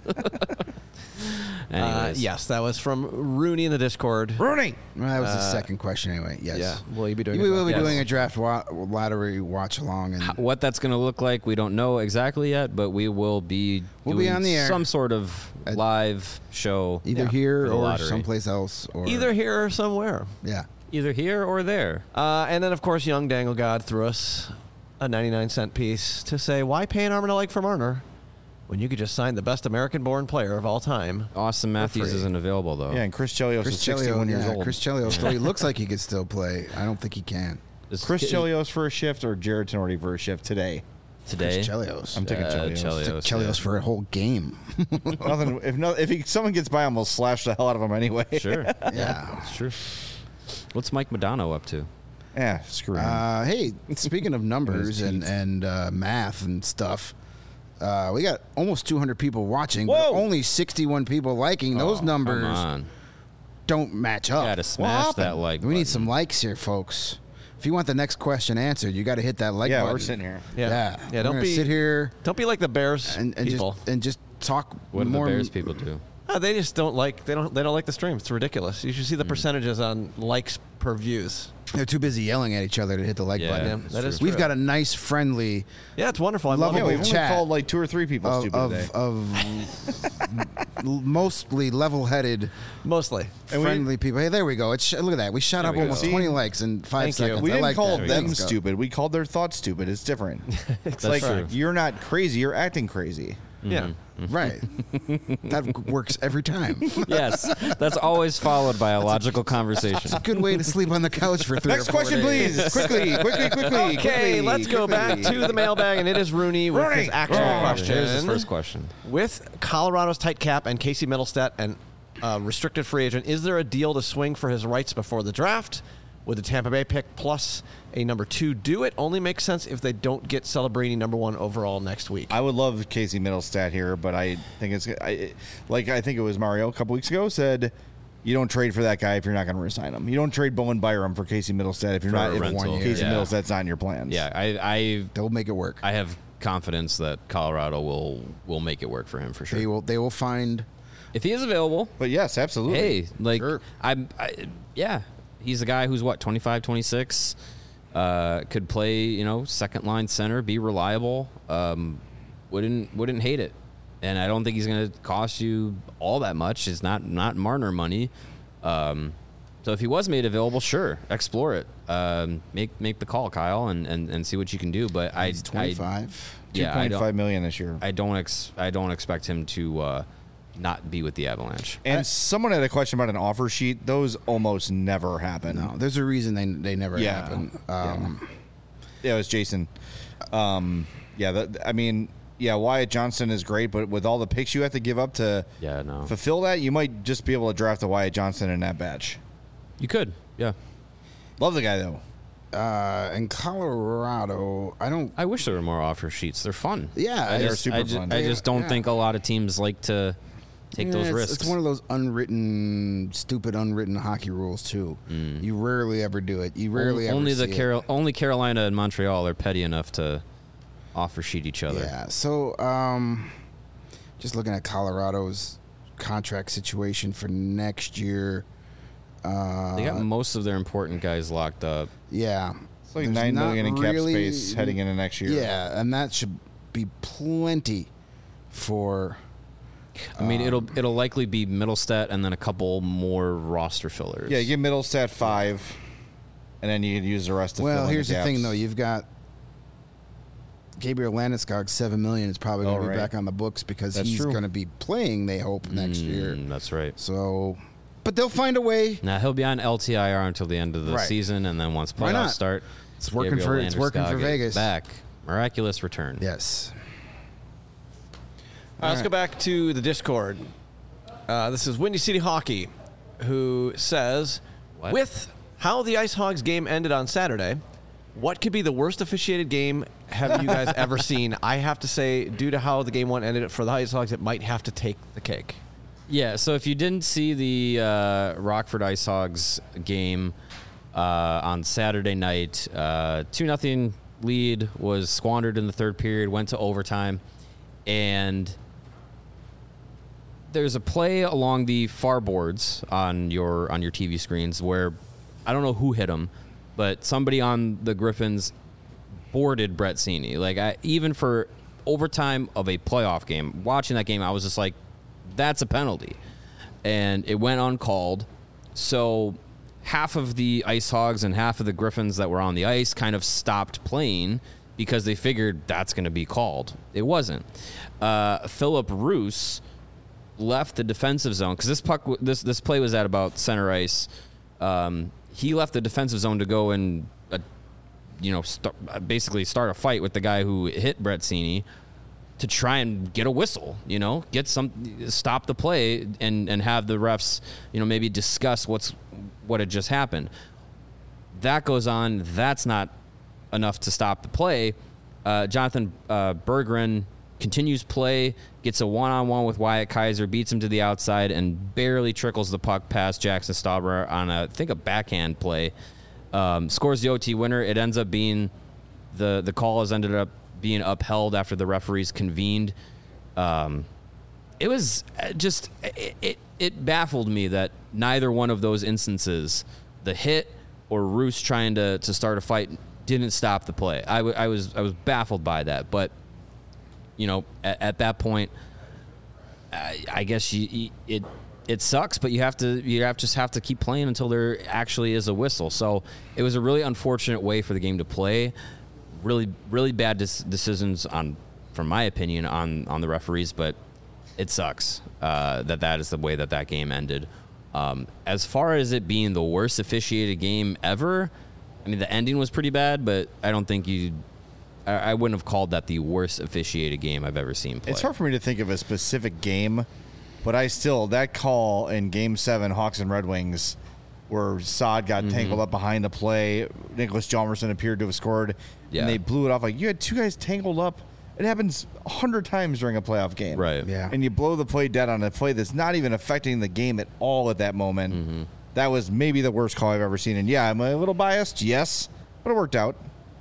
Uh, Anyways. yes, that was from Rooney in the Discord. Rooney. Well, that was the Uh, second question anyway. Yes. Yeah. Will you be doing We it? will be Yes. doing a draft wa- lottery watch along, and What that's going to look like, we don't know exactly yet, but we will be We'll be doing on the air. some sort of Uh, live show. either Yeah, here for the or lottery. someplace else, or Either here or somewhere. yeah. Either here or there. Uh, and then, of course, Young Dangle God threw us a ninety-nine cent piece to say, why pay an arm and a leg for Marner when you could just sign the best American-born player of all time? Austin Matthews free. isn't available, though. Yeah, and Chris Chelios Chris is sixty-one Chelios, years yeah, old. Chris Chelios still he looks like he could still play. I don't think he can. Is- Chris is- Chelios for a shift or Jared Tenorti for a shift today? today. Chris Chelios. I'm taking Uh, Chelios. Chelios. Took Chelios yeah. for a whole game. Nothing. If no, if he, someone gets by him, we'll slash the hell out of him anyway. Sure. Yeah. It's true. What's Mike Modano up to? Yeah, screw him. Uh, hey, speaking of numbers and teeth. and uh, math and stuff, uh, we got almost two hundred people watching, Whoa! but only sixty-one people liking. Those Oh, numbers Come on. don't match up. Gotta smash that happened? like we need button. some likes here, folks. If you want the next question answered, you got to hit that like yeah, button. we're sitting here. Yeah. Yeah, Yeah, We're don't gonna be- sit here Don't be like the Bears and, and people. just and just talk What do the more. Bears people do? Oh, they just don't like they don't they don't like the stream. It's ridiculous. You should see the Hmm. percentages on likes per views. They're too busy yelling at each other to hit the like Yeah, button. Yeah, that's that true. is We've true. got a nice, friendly Yeah, it's wonderful. I Love love Yeah, it. we've only chat called like two or three people of stupid today. of, of mostly level-headed, Mostly. And we friendly people. Hey, there we go. It's sh- look at that. We shot There up we go. almost See? twenty likes in five Thank you. seconds. we I didn't like call that. them Let's go. stupid. We called their thoughts stupid. It's different. it's like true. you're not crazy. You're acting crazy. Yeah. Right. That works every time. Yes, that's always followed by a logical conversation. Good way to sleep on the couch for three Next or four question, days. please. quickly, quickly, quickly. Okay, quickly, let's go quickly. back to the mailbag, and it is Rooney with Rooney. his actual Oh, question. Here's his first question. With Colorado's tight cap and Casey Middlestat and uh, restricted free agent, is there a deal to swing for his rights before the draft? Would the Tampa Bay pick plus a number two do it? Only makes sense if they don't get Celebrini number one overall next week. I would love Casey Middlestat here, but I think it's I, like I think it was Mario a couple weeks ago said, you don't trade for that guy if you're not going to resign him. You don't trade Bowen Byram for Casey Middlestat if you're For not a if rental, Casey yeah. Middlestat's not in your plans. Yeah, I, I They'll make it work. I have confidence that Colorado will will make it work for him for sure. They will. They will find. If he is available, But yes, absolutely. hey, like Sure. I'm, I, yeah, he's a guy who's what twenty-five, twenty-six, uh, could play, you know, second line center, be reliable. Um, wouldn't wouldn't hate it, and I don't think he's going to cost you all that much. It's not not Marner money. Um, so if he was made available, sure, explore it. Um, make make the call, Kyle, and, and, and see what you can do. But I, He's I twenty-five. two yeah, I point don't, five million this year. I don't ex, I don't expect him to uh, not be with the Avalanche. And someone had a question about an offer sheet. Those almost never happen. No, there's a reason they they never Yeah. happen. Um, Yeah, it was Jason. Um, yeah, that, I mean, yeah, Wyatt Johnston is great, but with all the picks you have to give up to Yeah, no. fulfill that, you might just be able to draft a Wyatt Johnston in that batch. You could, yeah. Love the guy though. uh, in Colorado, I don't. I wish there were more offer sheets. They're fun. Yeah, I they're just, super I just, fun. I just don't Yeah. think a lot of teams like to take Yeah, those it's, risks. It's one of those unwritten, stupid, unwritten hockey rules too. You rarely ever do it. You rarely only ever the see it. Carol, only Carolina and Montreal are petty enough to offer sheet each other. Yeah. So, um, just looking at Colorado's contract situation for next year. Uh, They got most of their important guys locked up. yeah. It's like There's nine not million in cap really- space heading into next year. Yeah, and that should be plenty for. I mean, Um, it'll it'll likely be Middlestat and then a couple more roster fillers. Yeah, give Middlestat five, and then you can use the rest to fill Well, in here's the, the thing, gaps. though. You've got Gabriel Landeskog, seven million is probably going Oh, to be right. back on the books because That's he's true. going to be playing. They hope next year. Mm, that's right. So, but they'll find a way. Now he'll be on L T I R until the end of the Right. season, and then once Why playoffs not? start, It's working Gabriel for it's working for Landeskog is Vegas. Back, miraculous return. Yes. Uh, let's go back to the Discord. Uh, this is Windy City Hockey, who says, What? with how the Ice Hogs game ended on Saturday, what could be the worst officiated game have you guys ever seen? I have to say, due to how the game one ended for the Ice Hogs, it might have to take the cake. Yeah, so if you didn't see the uh, Rockford Ice Hogs game uh, on Saturday night, uh, two nothing lead was squandered in the third period, went to overtime, and there's a play along the far boards on your on your T V screens where I don't know who hit him, but somebody on the Griffins boarded Brett Seney. Like I, even for overtime of a playoff game, watching that game, I was just like, that's a penalty. And it went uncalled. So half of the Ice Hogs and half of the Griffins that were on the ice kind of stopped playing because they figured that's going to be called. It wasn't. Uh, Philip Roos left the defensive zone because this puck, w- this this play was at about center ice. Um, he left the defensive zone to go and uh, you know, st- basically start a fight with the guy who hit Bretzini to try and get a whistle, you know, get some, stop the play and, and have the refs, you know, maybe discuss what's, what had just happened. That goes on. That's not enough to stop the play. Uh, Jonathan uh, Berggren continues play, gets a one-on-one with Wyatt Kaiser, beats him to the outside, and barely trickles the puck past Jackson Stauber on, a, I think, a backhand play. Um, scores the O T winner. It ends up being the the call has ended up being upheld after the referees convened. Um, it was just it, it it baffled me that neither one of those instances, the hit or Roos trying to to start a fight, didn't stop the play. I, w- I was I was baffled by that, but you know, at, at that point, I, I guess you, you, it it sucks, but you have to you have just have to keep playing until there actually is a whistle. So it was a really unfortunate way for the game to play. Really, really bad dis- decisions on, from my opinion, on on the referees, but it sucks uh, that that is the way that that game ended. Um, as far as it being the worst officiated game ever, I mean, the ending was pretty bad, but I don't think you. I, I wouldn't have called that the worst officiated game I've ever seen play. It's hard for me to think of a specific game, but I still that call in Game Seven, Hawks and Red Wings, where Saad got mm-hmm. tangled up behind the play. Nicholas Hjalmarsson appeared to have scored, yeah. and they blew it off. Like, you had two guys tangled up. It happens a hundred times during a playoff game, right? Yeah, and you blow the play dead on a play that's not even affecting the game at all at that moment. Mm-hmm. That was maybe the worst call I've ever seen. And yeah, I'm a little biased, yes, but it worked out.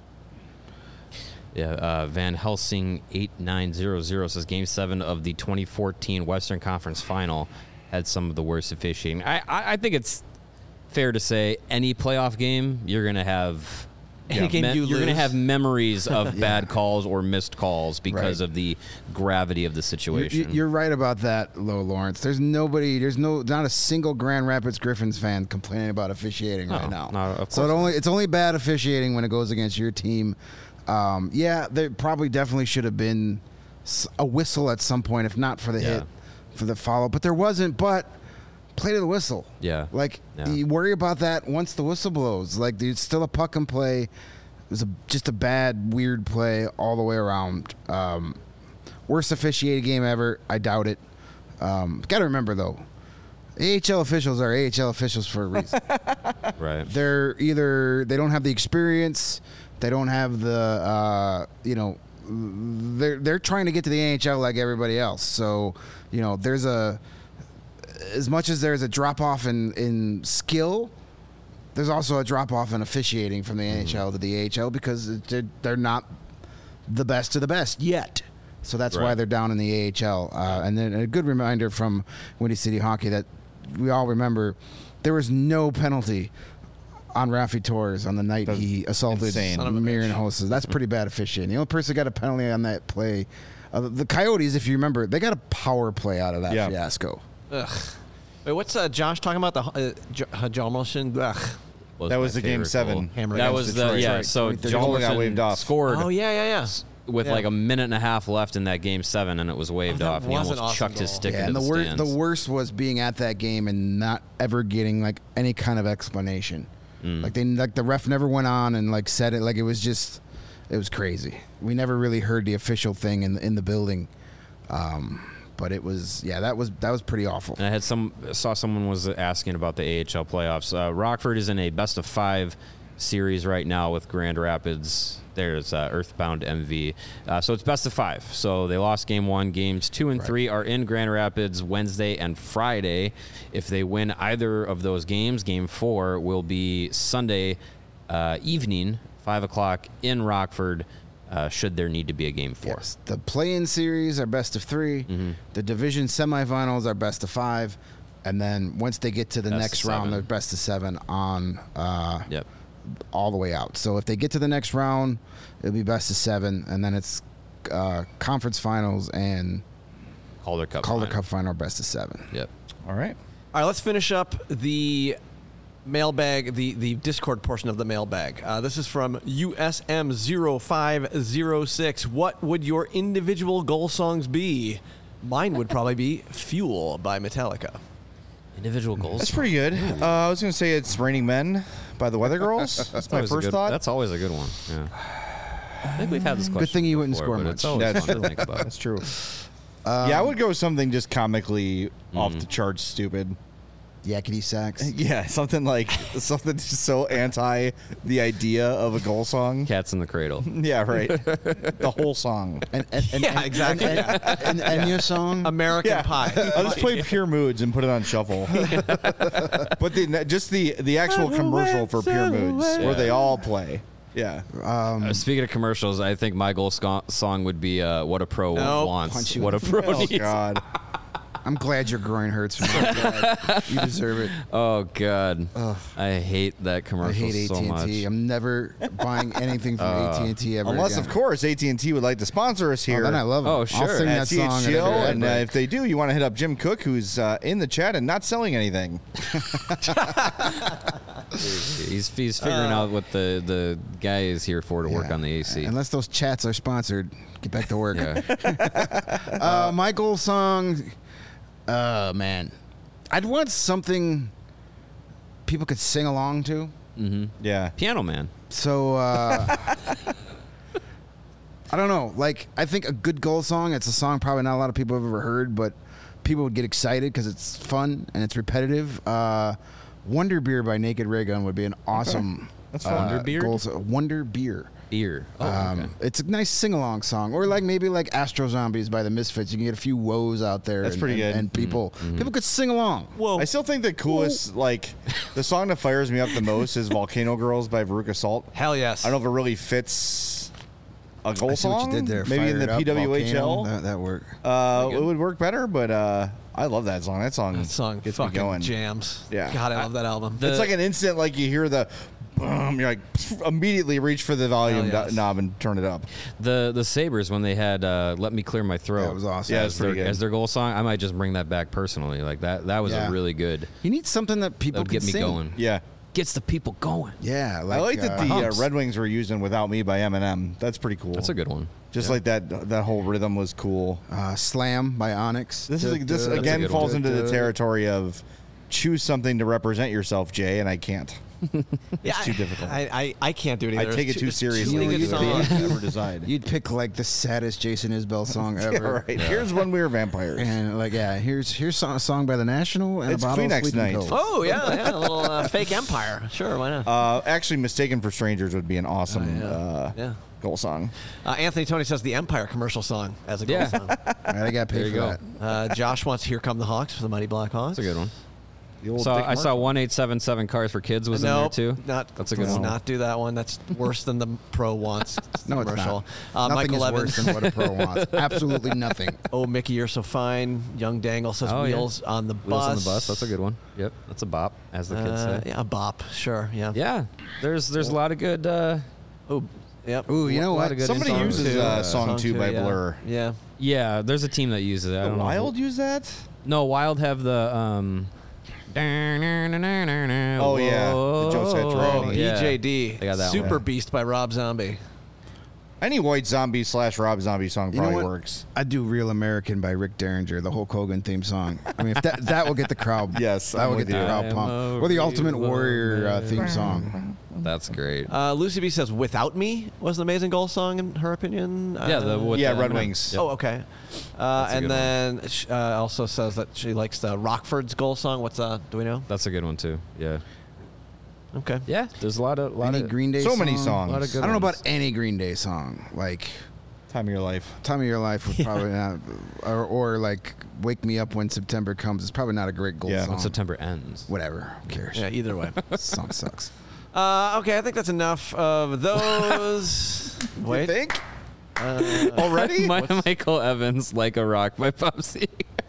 Yeah, uh, Van Helsing eight nine zero zero says Game Seven of the twenty fourteen Western Conference Final had some of the worst officiating. I, I, I think it's fair to say any playoff game you're gonna have. Any game me- you you're lose. gonna have memories of Yeah. bad calls or missed calls because Right. of the gravity of the You- situation. you- You're right about that, Low Lawrence. There's nobody, there's no, not a single Grand Rapids Griffins fan complaining about officiating No, right now. no, of so it course only, it's only bad officiating when it goes against your team. Um, yeah, there probably definitely should have been s- a whistle at some point, if not for the Yeah. hit, for the follow. But there wasn't. But play to the whistle. Yeah. Like Yeah. you worry about that once the whistle blows. Like there's still a puck and play. It was a, just a bad, weird play all the way around. Um, worst officiated game ever. I doubt it. Um, Got to remember though, A H L officials are A H L officials for a reason. right. They're either they don't have the experience, they don't have the uh, you know, they're they're trying to get to the N H L like everybody else. So you know, there's a as much as there's a drop off in in skill, there's also a drop off in officiating from the N H L to the A H L because they're, they're not the best of the best yet. So that's why Right. they're down in the A H L. Uh, and then a good reminder from Windy City Hockey that we all remember there was no penalty on Raffi Torres on the night That's he assaulted insane. Son of a Marian bitch. Hosses. That's pretty bad officiating. The only person who got a penalty on that play, uh, the Coyotes, if you remember, they got a power play out of that Yeah. fiasco. Ugh. Wait, what's uh, Josh talking about? The uh, J- uh, Hjalmarsson? Ugh. That my was the Game favorite Seven. goal. Hammer That against was the Detroit. yeah. Right. So The goal got Hjalmarsson waved off. scored Oh yeah, yeah, yeah. with Yeah. like a minute and a half left in that Game Seven, and it was waved Oh, that off. And he was an almost awesome chucked his goal. stick Yeah, into and the, the, wor- stands. the worst was being at that game and not ever getting like any kind of explanation. Mm. Like they like the ref never went on and like said it. Like it was just, it was crazy. We never really heard the official thing in in the building, um, but it was yeah that was that was pretty awful. And I had some saw someone was asking about the A H L playoffs. Uh, Rockford is in a best of five series right now with Grand Rapids. There's uh, Earthbound M V. Uh, so it's best of five. So they lost game one. Games two and Right. three are in Grand Rapids Wednesday and Friday. If they win either of those games, game four will be Sunday uh, evening, five o'clock in Rockford. Uh, should there need to be a game four? Yes, the play-in series are best of three. Mm-hmm. The division semifinals are best of five, and then once they get to the Best next of round, seven. they're best of seven on uh, Yep. all the way out. So if they get to the next round, it'll be best of seven, and then it's uh, conference finals and Calder Cup. Calder final. Cup final best of seven. Yep. All right. All right, let's finish up the mailbag, the, the Discord portion of the mailbag. Uh, this is from U S M zero five zero six. What would your individual goal songs be? Mine would probably be Fuel by Metallica. Individual goals. That's pretty good. Uh, I was gonna say it's "Raining Men" by the Weather Girls. That's my Always a first good- thought. That's always a good one. Yeah. I think we've had this question. Good thing you wouldn't before, score but much. It's always That's fun true. to think about. That's true. yeah, I would go with something just comically off Mm. the charts, stupid. Yakety sax. Yeah, something like something just so anti the idea of a goal song. Cats in the Cradle. Yeah, right. The whole song. And, and, and, Yeah, and- exactly, And, and, and, and your song. American Yeah. Pie. I'll just play Pure Moods and put it on shuffle. But the just the the actual commercial for Pure Moods where they all play. Yeah. Uh, speaking of commercials, I think my goal sco- song would be uh, "What a Pro Nope. Wants." Punch you What a in the Pro Oh Needs. God. I'm glad your groin hurts. From that. You deserve it. Oh God, I hate that I commercial hate so A T and much. T. I'm never buying anything from A T and T ever Unless, again. of course, A T and T would like to sponsor us Oh, here. then I love it. Oh, I'll sure. sing at that C H song. G L, at every and uh, ad if they do, you want to hit up Jim Cook, who's uh, in the chat and not selling anything. He's he's figuring out what the the guy is here for to break. work Yeah. on the A C. Unless those chats are sponsored, get back to work. Yeah. Uh, my goal song, uh, man, I'd want something people could sing along to. hmm Yeah. Piano Man. So uh, I don't know. Like, I think a good goal song. It's a song probably not a lot of people have ever heard, but people would get excited because it's fun and it's repetitive. Uh, Wonder Beer by Naked Ray Gun would be an awesome. That's uh, fun. Wonder Beer? goal so- Wonder Beer. Beer. Oh, Um, okay. It's a nice sing-along song, or like maybe like Astro Zombies by the Misfits. You can get a few woes out there. That's and, pretty and, good. And people, Mm-hmm. people could sing along. Whoa. I still think the coolest, like, the song that fires me up the most is "Volcano Girls" by Veruca Salt. Hell yes. I don't know if it really fits a goal I see song. what you did there. Maybe in Fire the it up, P W H L. Volcano. That, that worked. Uh, Pretty it good. would work better, but uh, I love that song. That song, That song gets me fucking going. jams. Yeah. God, I love that album. The- It's like an instant, like you hear the boom, you're like immediately reach for the volume Hell yes. do- knob and turn it up. The the Sabres when they had uh, "Let Me Clear My Throat." That was awesome. Yeah, as it's pretty their, good. as their goal song. I might just bring that back personally. Like that. That was Yeah. a really good. You need something that That people would can get me sing. going. Yeah. Gets the people going. Yeah, like, I like that uh, the uh, Humps. Red Wings were using "Without Me" by Eminem. That's pretty cool. That's a good one. Just like that, that whole rhythm was cool. uh, Slam by Onyx. This is this That's a again good falls one. into the territory of choose something to represent yourself, Jay, and I can't. yeah, too I- difficult. I, I, I can't do it I either. take it It's too it's seriously. Too many good to songs. ever decide. You'd pick like the saddest Jason Isbell song Yeah, ever. right. Here's when we were vampires. And like, yeah, here's here's a song by the National and It's a bottle Kleenex of Sleeping night. Pills. Oh yeah, yeah, a little uh, fake empire. Sure, why not? Uh, actually, "Mistaken for Strangers" would be an awesome Oh, yeah. uh, Yeah. goal song. Uh, Anthony Tony says the Empire commercial song as a goal Yeah. song. All right, I got There paid you for go. that. Uh, Josh wants "Here Come the Hawks" for the Mighty Black Hawks. That's a good one. The old So Dick I saw Martin. one eight seven seven Cars for Kids was Nope, in there too. Not, That's a good let's one. not do that one. That's worse than the Pro wants No, it's commercial. not. Uh, Nothing Michael is Evans. worse than what a pro wants. Absolutely nothing. Oh, Mickey, you're so fine. Young Dangle says Oh, yeah. "Wheels on the Wheels bus." on the Bus. That's a good one. Yep, that's a bop, as the kids Uh, say. yeah, a bop. Sure. Yeah. Yeah, there's there's a lot of good. Uh, Oh, yep. Ooh, you know lot what? of good Somebody songs, uses too. uh, "Song two" by yeah. Blur. Yeah. yeah, there's a team that uses it. I The don't know. Wild use that? No, Wild have the. Um, oh Oh, yeah, the Joe Satriani. Oh, yeah. B J D. They got that Super one. Beast by Rob Zombie. Any White Zombie slash Rob Zombie song You know probably what? works. I'd do "Real American" by Rick Derringer, the Hulk Hogan theme song. I mean, if that that will get the crowd. Yes, that I'm will with get the you. crowd I am pumped. a Or the Ultimate real Warrior uh, theme song. That's great. Uh, Lucy B says "Without Me" was an amazing goal song in her opinion. yeah, the, Uh, with yeah, the Red Eminem. Wings. Yep. Oh, okay. Uh, That's a and good then sh- uh, also says that she likes the Rockford's goal song. What's uh? Do we know? That's a good one too. Yeah. Okay. Yeah, there's a lot of lot Any of Green Day So song? many songs. A lot of good I don't know ones. about any Green Day song. Like Time of your life. "Time of Your Life" would probably not, or, or like "Wake Me Up When September Comes." It's probably not a great goal Yeah. song. When September ends. Whatever. Who cares? Yeah. Either way. Song sucks. uh, okay, I think that's enough of those. You Wait. think? Uh, Already? My, Michael Evans, "Like a Rock" by Popsy.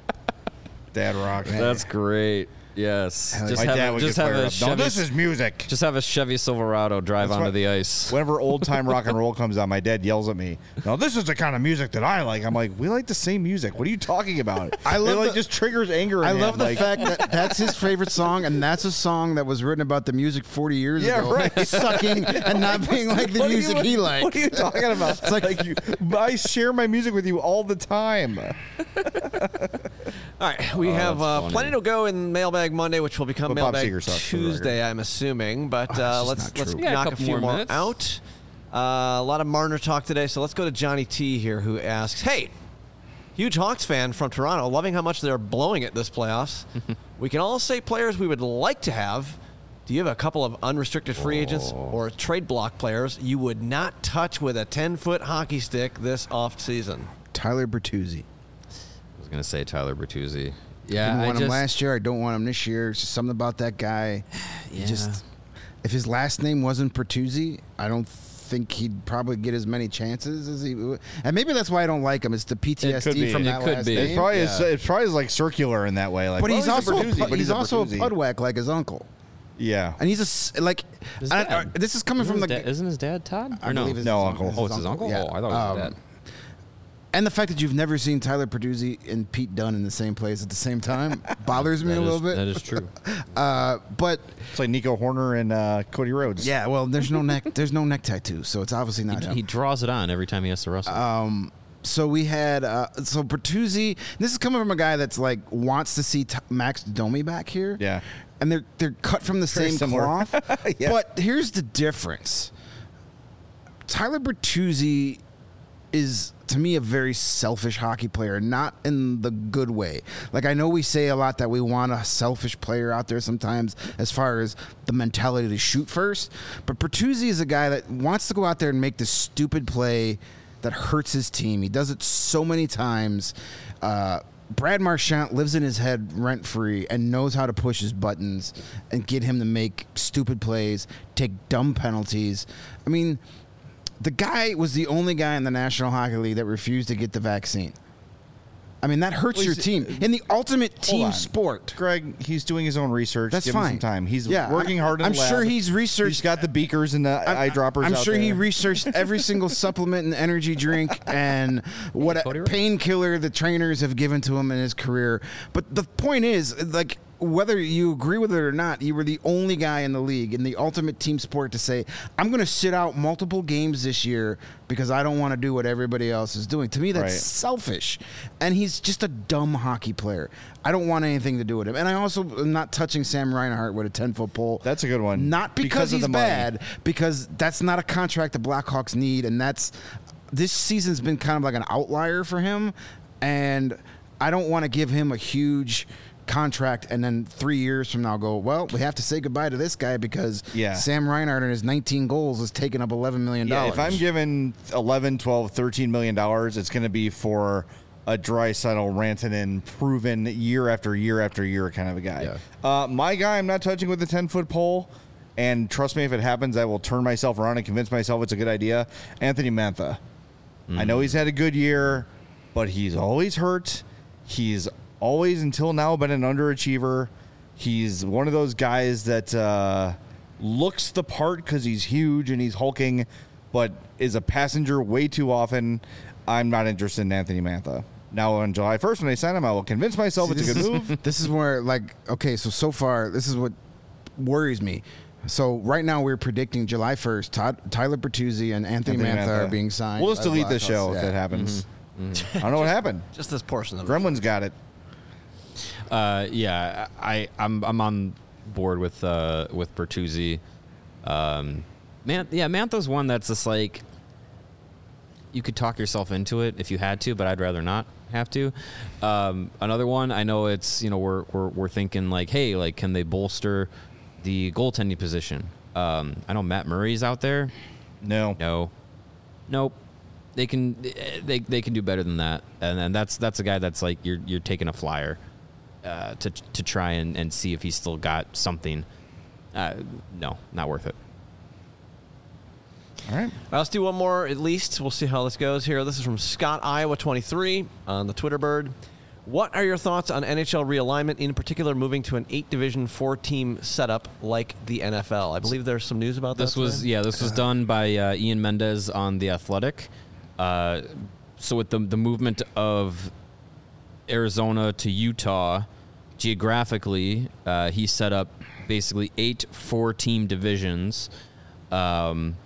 Dad rock. That's great. Yes. Hell Just My have, dad a, would just get have fired a up. No, Chevy. this is music. Just have a Chevy Silverado drive That's onto what- the ice. Whenever old time rock and roll comes on, my dad yells at me. No, this is the kind of music that I like. I'm like, we like the same music. What are you talking about? I love it like the- just triggers anger. In I him. love the like, fact that that's his favorite song, and that's a song that was written about the music forty years Yeah, ago. right. Sucking and not being like the What are you- music he likes. What are you talking about? It's like, you, I share my music with you all the time. All right, we Oh, have that's uh, funny. plenty to go in Mailbag Monday, which will become But Bob Mailbag Seger sucks, for the Tuesday, I'm assuming. But uh, just let's not let's true. We got a knock a, couple few more more minutes. out. Uh, a lot of Marner talk today, so let's go to Johnny T here, who asks, "Hey, huge Hawks fan from Toronto, loving how much they're blowing it this playoffs. We can all say players we would like to have. Do you have a couple of unrestricted free agents or trade block players you would not touch with a ten-foot hockey stick this offseason?" Tyler Bertuzzi. I was gonna say Tyler Bertuzzi. Yeah, Didn't I want just, him last year. I don't want him this year. It's just something about that guy. He Yeah. Just if his last name wasn't Bertuzzi, I don't think he'd probably get as many chances as he would. And maybe that's why I don't like him. It's the P T S It could D be. from It that could last be. name. It's probably is, Yeah. it's probably like circular in that way. Like, But well, he's, a also a, Bertuzzi, pud- but he's a also a Bertuzzi. pudwack like his uncle. Yeah. And he's a s- like. His I- dad. I- this is coming Isn't from his the. dad- isn't his dad Todd? I Or no? believe it's No, his uncle. Oh, it's his uncle? Yeah. Oh, I thought it was Um, his dad. And the fact that you've never seen Tyler Bertuzzi and Pete Dunne in the same place at the same time bothers me That a is- little bit. That is true. Uh, but It's like Nico Horner and uh, Cody Rhodes. yeah, well, there's no neck. There's no neck tattoo, so it's obviously not him. He draws it on every time he has to wrestle. So we had uh, so Bertuzzi. This is coming from a guy that's like wants to see t- Max Domi back here. Yeah. and they're they're cut from the Very same similar. cloth. Yeah. But here's the difference. Tyler Bertuzzi is to me a very selfish hockey player, not in the good way. Like I know we say a lot that we want a selfish player out there sometimes as far as the mentality to shoot first, but Bertuzzi is a guy that wants to go out there and make this stupid play that hurts his team. He does it so many times. Uh, Brad Marchand lives in his head rent-free and knows how to push his buttons and get him to make stupid plays, take dumb penalties. I mean, the guy was the only guy in the National Hockey League that refused to get the vaccine. I mean, that hurts Well, your he's- team. In the ultimate Hold team on. sport. Greg, he's doing his own research. That's Give fine. him some time. He's Yeah, working I'm- hard in I'm the lab. sure he's researched- He's got the beakers and the eye droppers I'm out sure he there. researched every single supplement and energy drink and what Cody Rhodes. painkiller the trainers have given to him in his career. But the point is, like, whether you agree with it or not, you were the only guy in the league in the ultimate team sport to say, I'm going to sit out multiple games this year because I don't want to do what everybody else is doing. To me, that's Right. selfish. And he's just a dumb hockey player. I don't want anything to do with him. And I also am not touching Sam Reinhart with a ten-foot pole. That's a good one. Not because, Because of he's the money. bad, because that's not a contract the Blackhawks need, and that's this season's been kind of like an outlier for him, and I don't want to give him a huge contract and then three years from now go, well, we have to say goodbye to this guy because Yeah. Sam Reinhart and his nineteen goals is taking up eleven million Yeah, dollars. if I'm given eleven, twelve, thirteen million dollars, it's going to be for a Draisaitl, Rantanen, proven year after year after year kind of a guy. Yeah. Uh, my guy, I'm not touching with the ten-foot pole, and trust me, if it happens, I will turn myself around and convince myself it's a good idea. Anthony Mantha. I know he's had a good year, but he's always hurt. He's always, until now, been an underachiever. He's one of those guys that uh, looks the part because he's huge and he's hulking, but is a passenger way too often. I'm not interested in Anthony Mantha. Now, on July first, when I sign him, I will convince myself it's a good move. This is where, like, okay, so so far, this is what worries me. So right now we're predicting July first, Todd, Tyler Bertuzzi and Anthony, Anthony Mantha, are Mantha. being signed. We'll just by the delete the Blackhawks. show if Yeah. that happens. I don't know what happened. Just this portion of it. Gremlins got it. Uh, yeah, I, I'm I'm on board with uh, with Bertuzzi. Um, man, yeah, Mantha's one that's just like you could talk yourself into it if you had to, but I'd rather not have to. Um, another one, I know it's you know we're we're we're thinking like, hey, like can they bolster the goaltending position? Um, I know Matt Murray's out there. No. No, nope. They can they they can do better than that, and and that's that's a guy that's like you're you're taking a flyer uh, to to try and, and see if he's still got something. Uh, no, not worth it. All right. All right, let's do one more at least. We'll see how this goes here. This is from Scott Iowa twenty-three on the Twitter bird. What are your thoughts on N H L realignment, in particular moving to an eight-division, four-team setup like the N F L? I believe there's some news about This that. was today. yeah, this was done by uh, Ian Mendez on The Athletic. Uh, so with the the movement of Arizona to Utah, geographically, uh, he set up basically eight four-team divisions, um,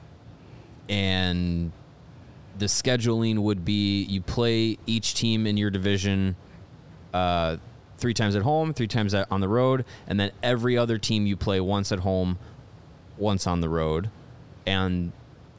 and the scheduling would be you play each team in your division uh, three times at home, three times at, on the road, and then every other team you play once at home, once on the road. And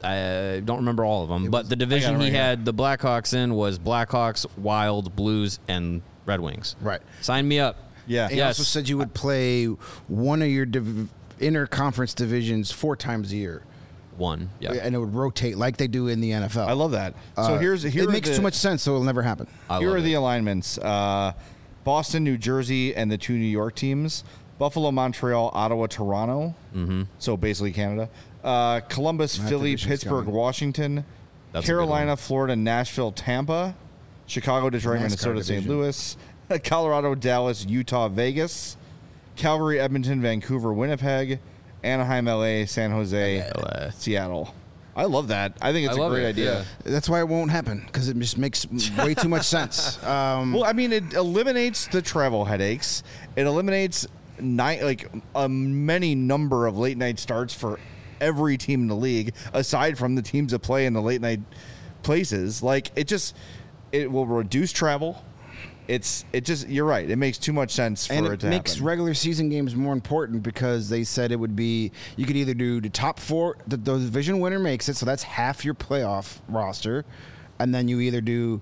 I don't remember all of them, but the division he had the Blackhawks in was Blackhawks, Wild, Blues, and Red Wings. Right. Sign me up. Yeah. He Yes. also said you would play one of your div- inter-conference divisions four times a year. One. Yeah. And it would rotate like they do in the N F L. I love that. So Uh, here's here it are makes the, too much sense, so it'll never happen. I Here love are it. the alignments: uh, Boston, New Jersey, and the two New York teams. Buffalo, Montreal, Ottawa, Toronto. Mm-hmm. So basically Canada. Uh, Columbus, That Philly, division's Pittsburgh, coming. Washington, That's a good Carolina, one. Florida, Nashville, Tampa, Chicago, Detroit, NASCAR Minnesota, Saint division. Louis, Colorado, Dallas, Utah, Vegas, Calgary, Edmonton, Vancouver, Winnipeg, Anaheim, L A, San Jose, L A. Seattle. I love that. I think it's I a love great it, idea. yeah. That's why it won't happen, because it just makes way too much sense. Um, Well, I mean, it eliminates the travel headaches. It eliminates night like a many number of late night starts for every team in the league, aside from the teams that play in the late night places. Like it just, it will reduce travel. It's it just you're right. It makes too much sense for and it, it to makes happen. regular season games more important because they said it would be you could either do the top four, the, the division winner makes it, so that's half your playoff roster, and then you either do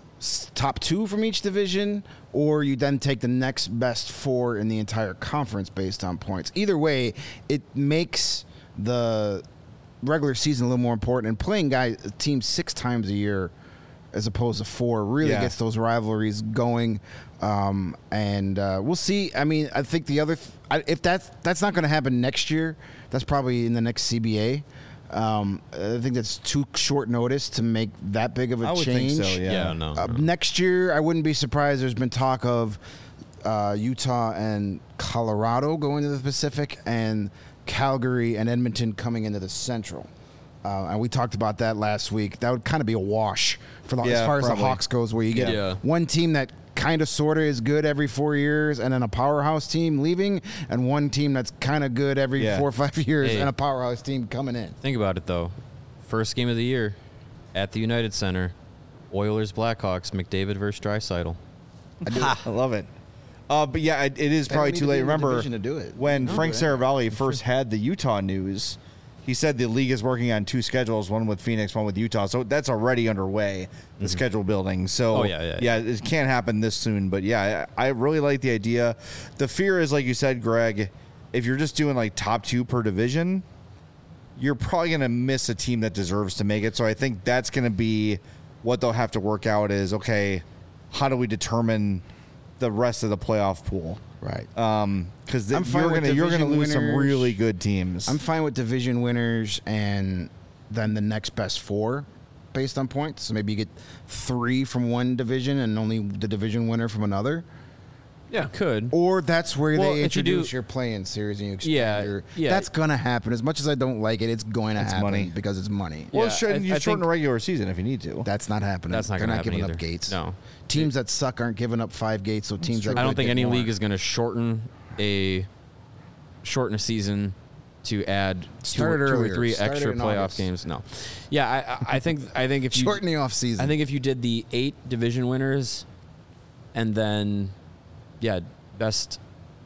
s- top two from each division, or you then take the next best four in the entire conference based on points. Either way, it makes the regular season a little more important, and playing guys teams six times a year as opposed to four really Yeah. gets those rivalries going. Um, and uh, we'll see. I mean, I think the other th- I, if that's that's not going to happen next year, that's probably in the next C B A. Um, I think that's too short notice to make that big of a I would change. think so. Yeah. Yeah, no. Uh, no. next year, I wouldn't be surprised. There's been talk of uh, Utah and Colorado going to the Pacific, and Calgary and Edmonton coming into the Central. Uh, and we talked about that last week. That would kind of be a wash for the, as Yeah, far as probably. the Hawks goes, where you get Yeah. one team that kind of sort of is good every four years, and then a powerhouse team leaving, and one team that's kind of good every Yeah. four or five years, Hey. and a powerhouse team coming in. Think about it, though. First game of the year at the United Center, Oilers Blackhawks, McDavid versus Draisaitl. I love it. Uh, but yeah, it, it is probably need too to be late. in the Remember division to do it. when No, Frank but- Saravalli first had the Utah news, he said the league is working on two schedules, one with Phoenix, one with Utah. So that's already underway, the schedule building. So Oh, yeah, yeah, yeah, it can't happen this soon. But yeah, I, I really like the idea. The fear is, like you said, Greg, if you're just doing like top two per division, you're probably going to miss a team that deserves to make it. So I think that's going to be what they'll have to work out is, okay, how do we determine the rest of the playoff pool? Right. Because I'm fine you're with going to you're going to division lose some winners. really good teams. I'm fine with division winners and then the next best four based on points. So maybe you get three from one division and only the division winner from another. Yeah, could. Or that's where Well, they if you do- introduce your play-in series and you expand Yeah, your... yeah. That's going to happen. As much as I don't like it, it's going to It's happen money. because it's money. well, Yeah, shouldn't I- you I shorten think- the regular season if you need to? That's not happening. That's not They're gonna not happen giving either. up gates. No. Teams that suck aren't giving up five gates, so teams that I don't good think get any more. league is going to shorten a shorten a season to add two, Start it or- two or earlier. three Start it extra in playoff August. games. No, yeah, I, I- I think I think if you Shorten the off-season. I think if you did the eight division winners, and then yeah, best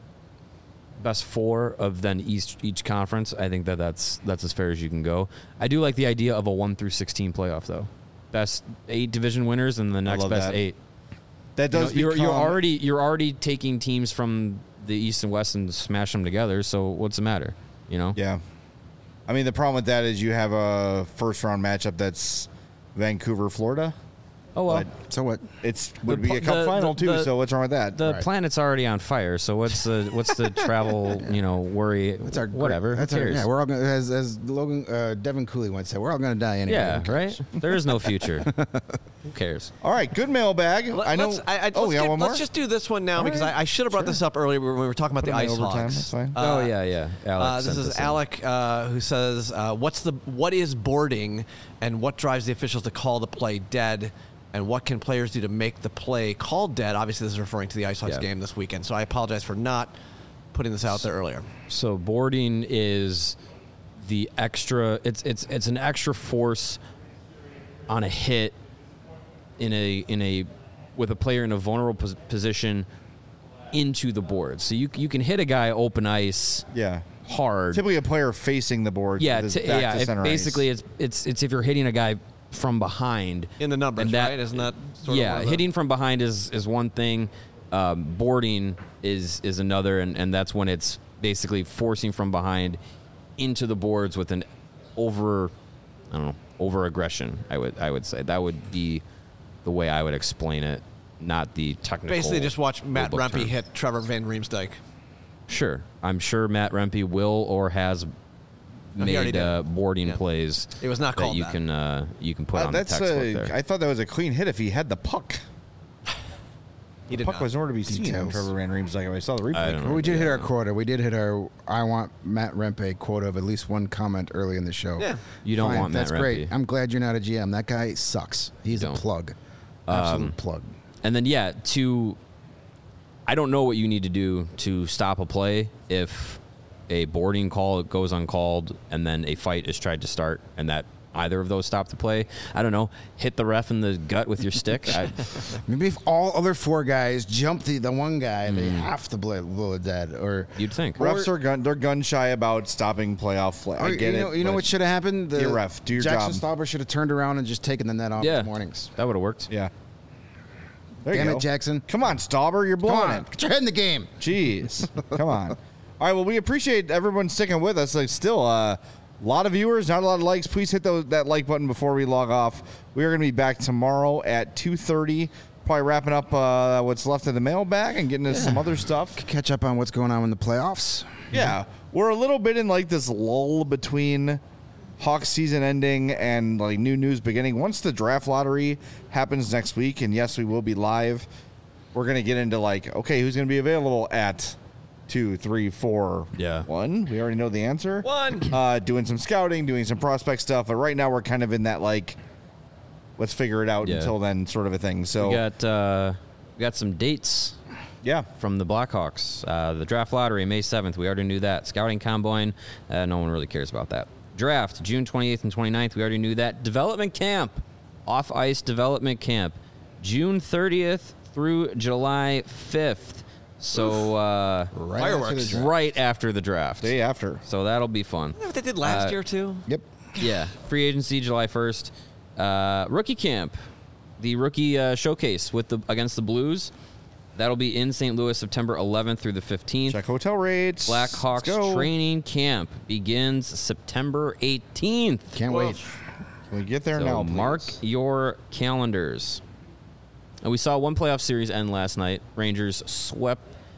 best four of then each each conference, I think that that's that's as fair as you can go. I do like the idea of a one through sixteen playoff though. Best eight division winners and the next love best that. eight. That You know, does you're, you're become- already you're already taking teams from the East and West and smash them together. So what's the matter? You know? Yeah. I mean, the problem with that is you have a first round matchup that's Vancouver, Florida. Oh well. But So what? it's would The be pl- a cup the- final the- too. the- so what's wrong with that? The Right. planet's already on fire. So what's the what's the travel you know worry? That's our whatever. That's Who our, cares? yeah, we're all gonna, as as Logan uh, Devin Cooley once said, we're all going to die anyway. Yeah, Who cares? right. There is no future. Who cares? All right, good mailbag. Let- I know. Let's, I, I, oh, let's yeah, get- one more. let's just do this one now All because right. I, I should have brought this up earlier when we were talking about Put the it in ice overtime, hogs. that's fine. Uh, oh yeah, yeah. Alex Uh, this sent is in. Alec uh, who says, uh, "What's the what is boarding, and what drives the officials to call the play dead, and what can players do to make the play called dead?" Obviously, this is referring to the Ice Hogs Yeah. game this weekend. So I apologize for not putting this out there earlier. So boarding is the extra. It's it's it's an extra force on a hit in a in a with a player in a vulnerable pos- position into the board. So you you can hit a guy open ice Yeah. hard. Typically a player facing the board. Yeah, with his t- back yeah. to If center basically, ice. it's it's it's if you're hitting a guy from behind In the numbers, and that- right? Isn't that sort yeah, of one of hitting from behind is is one thing. Um, boarding is is another, and, and that's when it's basically forcing from behind into the boards with an over, I don't know, over aggression. I would I would say that would be the way I would explain it, not the the, technical. basically just watch Matt rulebook Rempe term. hit Trevor Van Riemsdyk. Sure, I'm sure Matt Rempe will or has No, he already made did. uh, boarding Yeah. plays. It was not that called you that. can uh, you can put Uh, on the that's textbook a, there. I thought that was a clean hit if he had the puck. He did Puck not. was nowhere to be seen. Details. Trevor Van Riemsdyk. I saw the replay. I don't Well, know. we did hit our Yeah. quota. We did hit our I want Matt Rempe quota of at least one comment early in the show. Yeah. You don't Fine, want Matt That's great. Rempe. I'm glad you're not a G M. That guy sucks. He's a Don't. plug. Absolute plug. And then yeah, to I don't know what you need to do to stop a play if a boarding call goes uncalled and then a fight is tried to start and that either of those stop the play. I don't know. Hit the ref in the gut with your stick. I, Maybe if all other four guys jump the, the one guy, they Mm. have to blow, blow it dead. Or, you'd think. Refs are gun. They're gun shy about stopping playoff play. I or get you know, it. you know but- what should have happened? The Be a ref. Do your Jackson job. Stauber should have turned around and just taken the net off Yeah, in the mornings. that would have worked. Yeah. There Damn you it, go. Jackson. Come on, Stauber. You're Come blowing on, it. get your head in the game. Jeez. Come on. All right. Well, we appreciate everyone sticking with us. Like, still, a uh, lot of viewers, not a lot of likes. Please hit those, that like button before we log off. We are going to be back tomorrow at two thirty. Probably wrapping up uh, what's left of the mailbag and getting into some other stuff. Catch up on what's going on in the playoffs. Yeah. We're a little bit in like this lull between Hawks season ending and like new news beginning. Once the draft lottery happens next week, and yes, we will be live, we're going to get into like, okay, who's going to be available at two, three, four, Yeah. one. We already know the answer. One. Uh, doing some scouting, doing some prospect stuff. But right now we're kind of in that like, let's figure it out Yeah. until then sort of a thing. So We got uh, we got some dates yeah, from the Blackhawks. Uh, the draft lottery, May seventh. We already knew that. Scouting combine, uh, no one really cares about that. Draft, June twenty-eighth and twenty-ninth. We already knew that. Development camp, off-ice development camp, June thirtieth through July fifth. So uh, Right Fireworks. after the draft. right after the draft. day after. So that'll be fun. Isn't that what they did last Uh, year too? Yep. Yeah, free agency July first. Uh, rookie camp, the rookie uh, showcase with the against the Blues. That'll be in Saint Louis, September eleventh through the fifteenth. Check hotel rates. Let's Blackhawks go. training camp begins September eighteenth. Can't Woof. wait. Can we get there So now, please? mark your calendars. And we saw one playoff series end last night. Rangers swept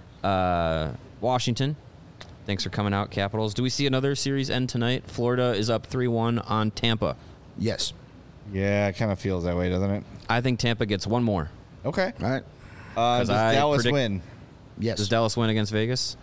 uh, Washington. Thanks for coming out, Capitals. Do we see another series end tonight? Florida is up three one on Tampa. Yes. Yeah, it kind of feels that way, doesn't it? I think Tampa gets one more. Okay. All right. Uh, does I Dallas predict- win? Yes. Does Dallas win against Vegas?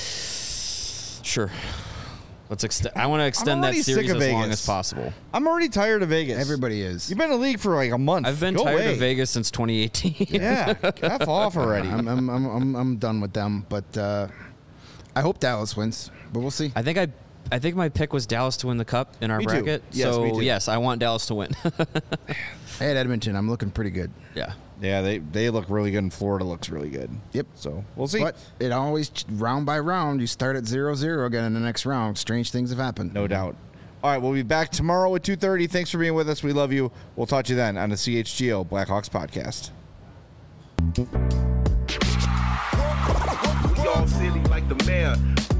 Sure. Let's extend. I want to extend that already sick series of as long Vegas. as possible. I'm already tired of Vegas. Everybody is. You've been in the league for like a month. I've been Go tired away. of Vegas since twenty eighteen. Yeah, F off already. I'm, I'm, I'm, I'm, I'm done with them, but uh, I hope Dallas wins, but we'll see. I think I, I think my pick was Dallas to win the cup in our Me too. bracket. Yes, so me too. yes, I want Dallas to win. Hey, at Edmonton, I'm looking pretty good. yeah. Yeah, they they look really good, and Florida looks really good. Yep. So we'll see. But it always, round by round, you start at zero zero again in the next round. Strange things have happened. No doubt. All right, we'll be back tomorrow at two thirty. Thanks for being with us. We love you. We'll talk to you then on the C H G O Blackhawks podcast. We all silly like the mayor.